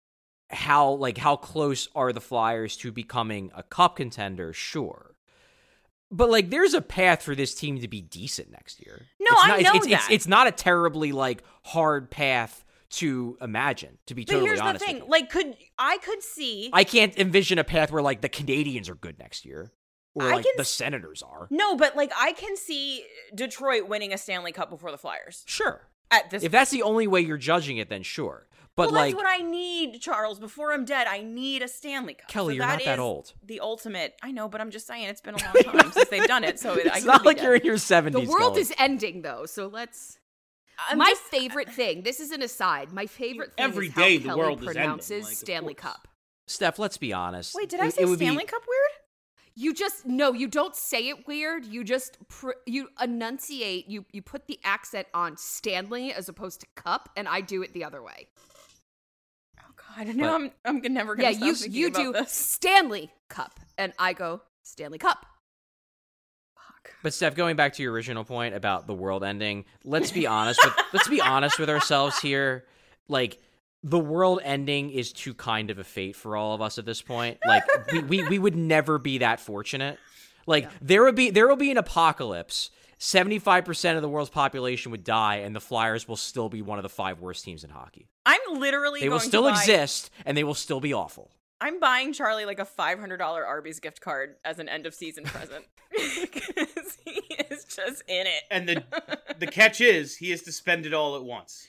how like how close are the Flyers to becoming a cup contender? Sure. But, like, there's a path for this team to be decent next year. No, it's I not, know it's, that. It's, it's not a terribly, like, hard path to imagine, to be but totally here's honest the thing. with you. Like, could I could see... I can't envision a path where, like, the Canadians are good next year. Or, I like, can the s- Senators are. No, but, like, I can see Detroit winning a Stanley Cup before the Flyers. Sure. At this If that's the only way you're judging it, then sure. But, well, like... that's what I need, Charles. Before I'm dead, I need a Stanley Cup. Kelly, So you're not that is old. The ultimate. I know, but I'm just saying it's been a long time since they've done it. So it, I It's could not be like dead. you're in your seventies, The world Kelly. is ending, though, so let's. I'm my just- favorite thing. This is an aside. My favorite thing Every is how day the Kelly world is ending, pronounces like, of Stanley course. Cup. Steph, let's be honest. Wait, did I It- say it would be- Stanley Cup weird? You just no, you don't say it weird. You just pr- you enunciate. You you put the accent on Stanley as opposed to cup, and I do it the other way. Oh God, I know I'm I'm never gonna Yeah, stop you thinking you about do this. Stanley Cup, and I go Stanley Cup. Fuck. But Steph, going back to your original point about the world ending, let's be honest with let's be honest with ourselves here. Like, the world ending is too kind of a fate for all of us at this point. Like, we, we, we would never be that fortunate. Like, yeah. there would be there will be an apocalypse. seventy-five percent of the world's population would die, and the Flyers will still be one of the five worst teams in hockey. I'm literally They going will still to buy, exist, and they will still be awful. I'm buying Charlie like a five hundred dollars Arby's gift card as an end of season present because he is just in it. And the the catch is he has to spend it all at once.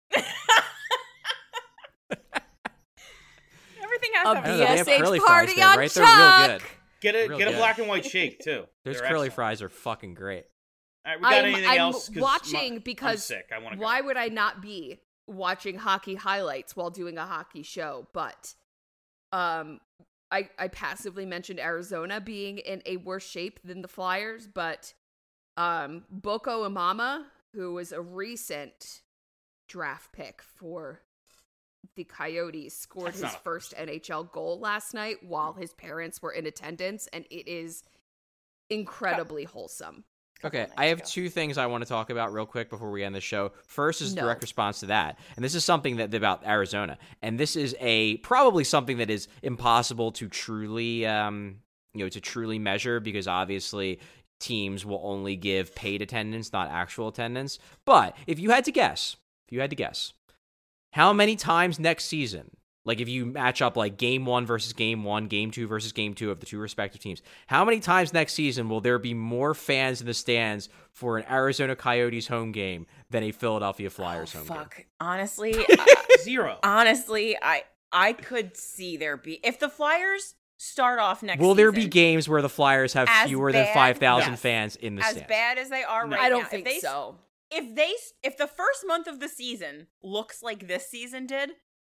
Everything has A to have I don't B know, they S have H curly party fries there, on right? They're real Chuck. good. Get a Real get a good. black and white shake too. Those They're curly excellent. fries are fucking great. All right, we got I'm, anything I'm else? 'Cause watching my- because I'm sick. I want to. why would I not be watching hockey highlights while doing a hockey show? But um, I I passively mentioned Arizona being in a worse shape than the Flyers, but um, Boko Imama, who was a recent draft pick for the Coyotes, scored That's his not a first N H L goal last night while his parents were in attendance, and it is incredibly wholesome. Okay, nights I have ago. two things I want to talk about real quick before we end the show. First is No. direct response to that, and this is something that about Arizona, and this is a probably something that is impossible to truly, um, you know, to truly measure because obviously teams will only give paid attendance, not actual attendance. But if you had to guess, if you had to guess, how many times next season? Like, if you match up, like, game one versus game one, game two versus game two of the two respective teams, how many times next season will there be more fans in the stands for an Arizona Coyotes home game than a Philadelphia Flyers oh, home fuck. game? Honestly, uh, Zero. honestly, I I could see there be if the Flyers start off next. Will there be season games where the Flyers have as fewer than bad- five thousand yes. fans in the as stands? bad as they are No. right I don't now, think if they, so. If they if the first month of the season looks like this season did,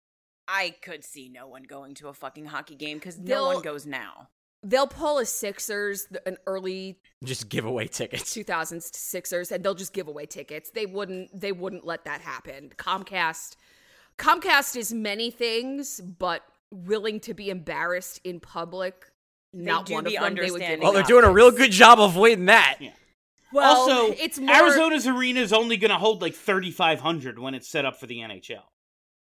I could see no one going to a fucking hockey game because no They'll- one goes now. They'll pull a Sixers, an early Just give away tickets. two thousands Sixers, and they'll just give away tickets. They wouldn't. They wouldn't let that happen. Comcast, Comcast is many things, but willing to be embarrassed in public. Not do one of be them. They would give understanding. Well, they're up. doing a real good job of avoiding that. Yeah. Well, also, it's more, Arizona's arena is only going to hold like thirty-five hundred when it's set up for the N H L.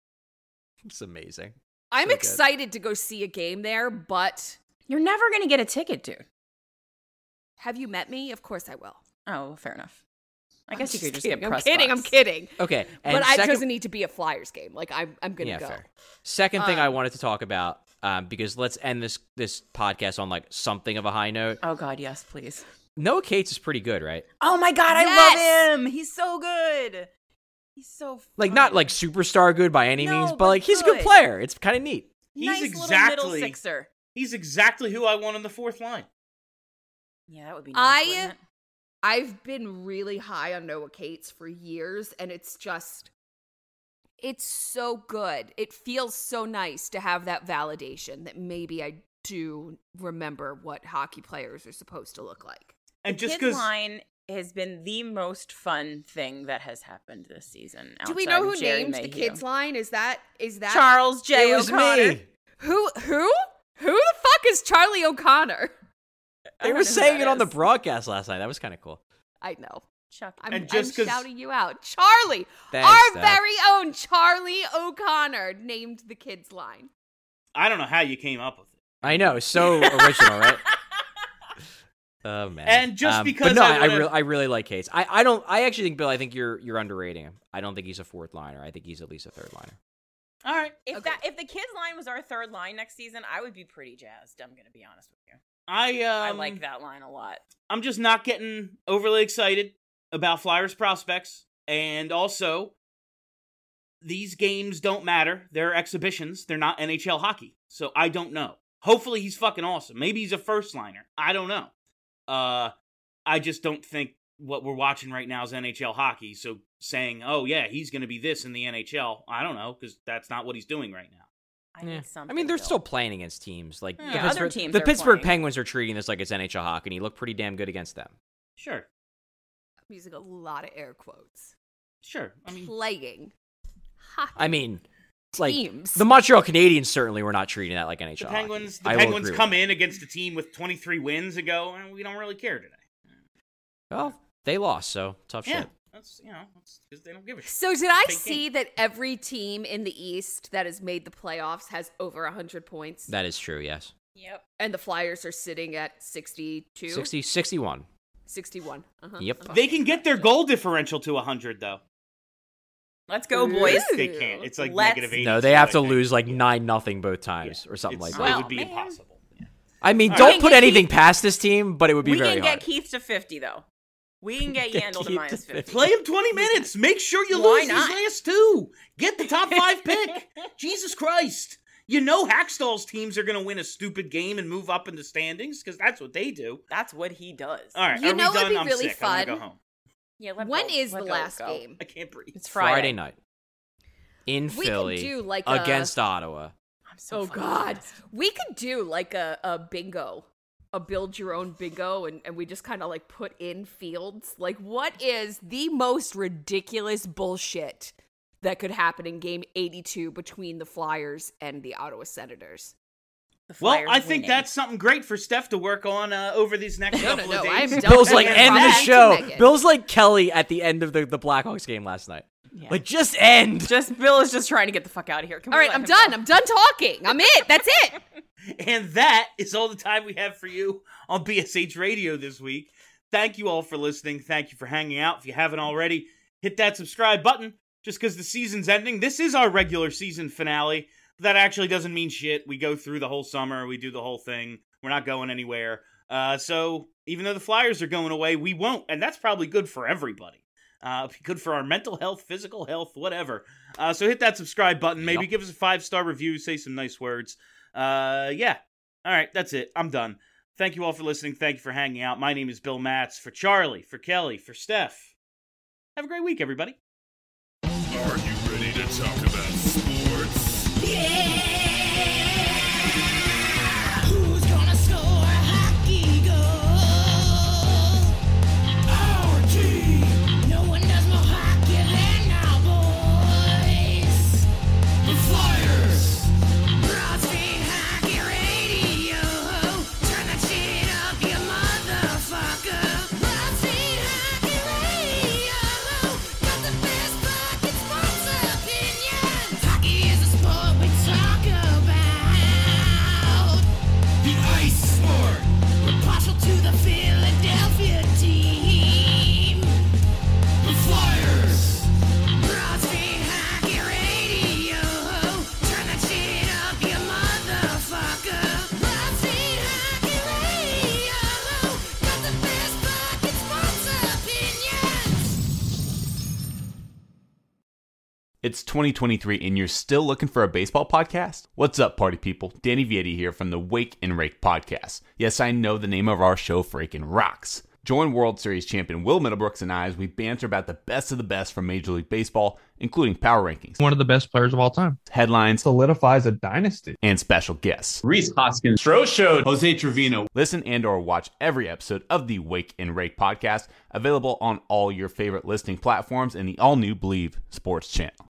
It's amazing. I'm so good. excited to go see a game there, but You're never gonna get a ticket, dude. have you met me? Of course I will. Oh, well, fair enough. I I'm guess you could just kidding. get I'm press kidding. box. I'm kidding. Okay, and But I, it second, doesn't need to be a Flyers game. Like I'm, I'm gonna yeah, go. fair. Second thing I Um, wanted to talk about, um, because let's end this this podcast on like something of a high note. Oh God, yes, please. Noah Cates is pretty good, right? Oh my God, I Yes! love him. He's so good. He's so Like fun. not like superstar good by any No, means, but, but like he's a good good. player. It's kind of neat. He's nice little exactly- middle sixer. He's exactly who I want on the fourth line. Yeah, that would be nice. I- wouldn't it? I've been really high on Noah Cates for years, and it's just, it's so good. It feels so nice to have that validation that maybe I do remember what hockey players are supposed to look like. And just Kids because line has been the most fun thing that has happened this season. Do we outside know of who Jerry named the Mayhew. kids line? Is that is that Charles J. It was O'Connor. me. who who who the fuck is Charlie O'Connor? I They don't were know who saying that it on the is. broadcast last night. That was kind of cool. I know. Chuck. I'm, And just I'm 'cause- shouting you out. Charlie, Thanks, our Steph. very own Charlie O'Connor named the kids line. I don't know how you came up with it. I know, so original, right? Oh man! And just um, because but no, I, I, wanna... I, re- I really like Case. I, I don't. I actually think Bill. I think you're you're underrating him. I don't think he's a fourth liner. I think he's at least a third liner. All right. If Okay. that if the kids line was our third line next season, I would be pretty jazzed. I'm gonna be honest with you. I um, I like that line a lot. I'm just not getting overly excited about Flyers prospects, and also these games don't matter. They're exhibitions. They're not N H L hockey, so I don't know. Hopefully he's fucking awesome. Maybe he's a first liner. I don't know. Uh, I just don't think what we're watching right now is N H L hockey. So saying, oh yeah, he's going to be this in the N H L, I don't know, because that's not what he's doing right now. I Yeah. need something. I mean, they're Bill. still playing against teams like Yeah, the other Pittsburgh, teams the are Pittsburgh playing. Penguins are treating this like it's N H L hockey, and he looked pretty damn good against them. Sure, I'm using a lot of air quotes. sure. I mean, Playing hockey. I mean, it's like Teams. the Montreal Canadiens certainly were not treating that like N H the L. Penguins. hockey. The I will Penguins agree come with in against a team with twenty-three wins and go, "Eh, we don't really care today. that. Well, they lost, so tough Yeah, shit. that's you know, because they don't give a shit. So did I Fake see that every team in the East that has made the playoffs has over one hundred points? That is true. Yes, Yep. And the Flyers are sitting at sixty-two? sixty, sixty-one. sixty-one. Uh-huh. Yep. They can get their goal differential to one hundred though. Let's go, boys. Ooh. They can't. It's like Let's- negative eighty. No, they have to I think. lose like nine nothing both times Yeah. or something It's- like that. It would be Well, man. impossible. Yeah. I mean, All don't right. put Get anything Keith- past this team, but it would be We very can hard. get Keith to fifty though. We can get Get Yandel to Keith minus to fifty. Play him twenty minutes. Make sure you Why lose not? these last two. Get the top five pick. Jesus Christ. You know Hackstall's teams are going to win a stupid game and move up in the standings because that's what they do. That's what he does. All right, You are know we it'd done? be I'm really sick. I want to fun. go home. Yeah. Let When go. is Let the go, last go. game? I can't breathe. It's Friday. Friday night in We Philly could do like a- against Ottawa. I'm so Oh, fucking God. jazzed. We could do like a, a bingo, a build your own bingo, and, and we just kind of like put in fields. Like, what is the most ridiculous bullshit that could happen in game eighty-two between the Flyers and the Ottawa Senators? The Well, Flyers I think winning. that's something great for Steph to work on uh, over these next No, no, couple no, of I'm days. done. Bill's like, Yeah, end the back to show. Megan. Bill's like Kelly at the end of the, the Blackhawks game last night. Yeah. Like, just end. Just Bill is just trying to get the fuck out of here. Can we All right, let I'm him done. go? I'm done talking. I'm it. That's it. And that is all the time we have for you on B S H Radio this week. Thank you all for listening. Thank you for hanging out. If you haven't already, hit that subscribe button just because the season's ending. This is our regular season finale. But that actually doesn't mean shit. We go through the whole summer. We do the whole thing. We're not going anywhere. Uh, so even though the Flyers are going away, we won't. And that's probably good for everybody. Uh, be good for our mental health, physical health, whatever. Uh, so hit that subscribe button. Maybe Yep. give us a five-star review. Say some nice words. Uh, yeah. All right, that's it. I'm done. Thank you all for listening. Thank you for hanging out. My name is Bill Matz. For Charlie, for Kelly, for Steph. Have a great week, everybody. Are you ready to talk about sports? Who's gonna score a hockey goal? Our team. No one does more hockey than our boys. The Flyers. Broad Street Hockey Radio. Turn that shit up, you motherfucker. Broad Street Hockey Radio. Got the best fucking sports opinions. Hockey is a sport we talk about. The ice sport. We're partial to the Philadelphia team. The Flyers. Broad Street Hockey Radio. Turn that shit up, you motherfucker. Broad Street Hockey Radio. Got the best fucking sports opinions. It's twenty twenty-three and you're still looking for a baseball podcast? What's up, party people? Danny Vietti here from the Wake and Rake podcast. Yes, I know the name of our show freaking rocks. Join World Series champion Will Middlebrooks and I as we banter about the best of the best from Major League Baseball, including power rankings, One of the best players of all time. headlines, Solidifies a dynasty. and special guests. Reese Hoskins, Stro Showed, Jose Trevino. Listen and or watch every episode of the Wake and Rake podcast, available on all your favorite listening platforms and the all-new Believe Sports channel.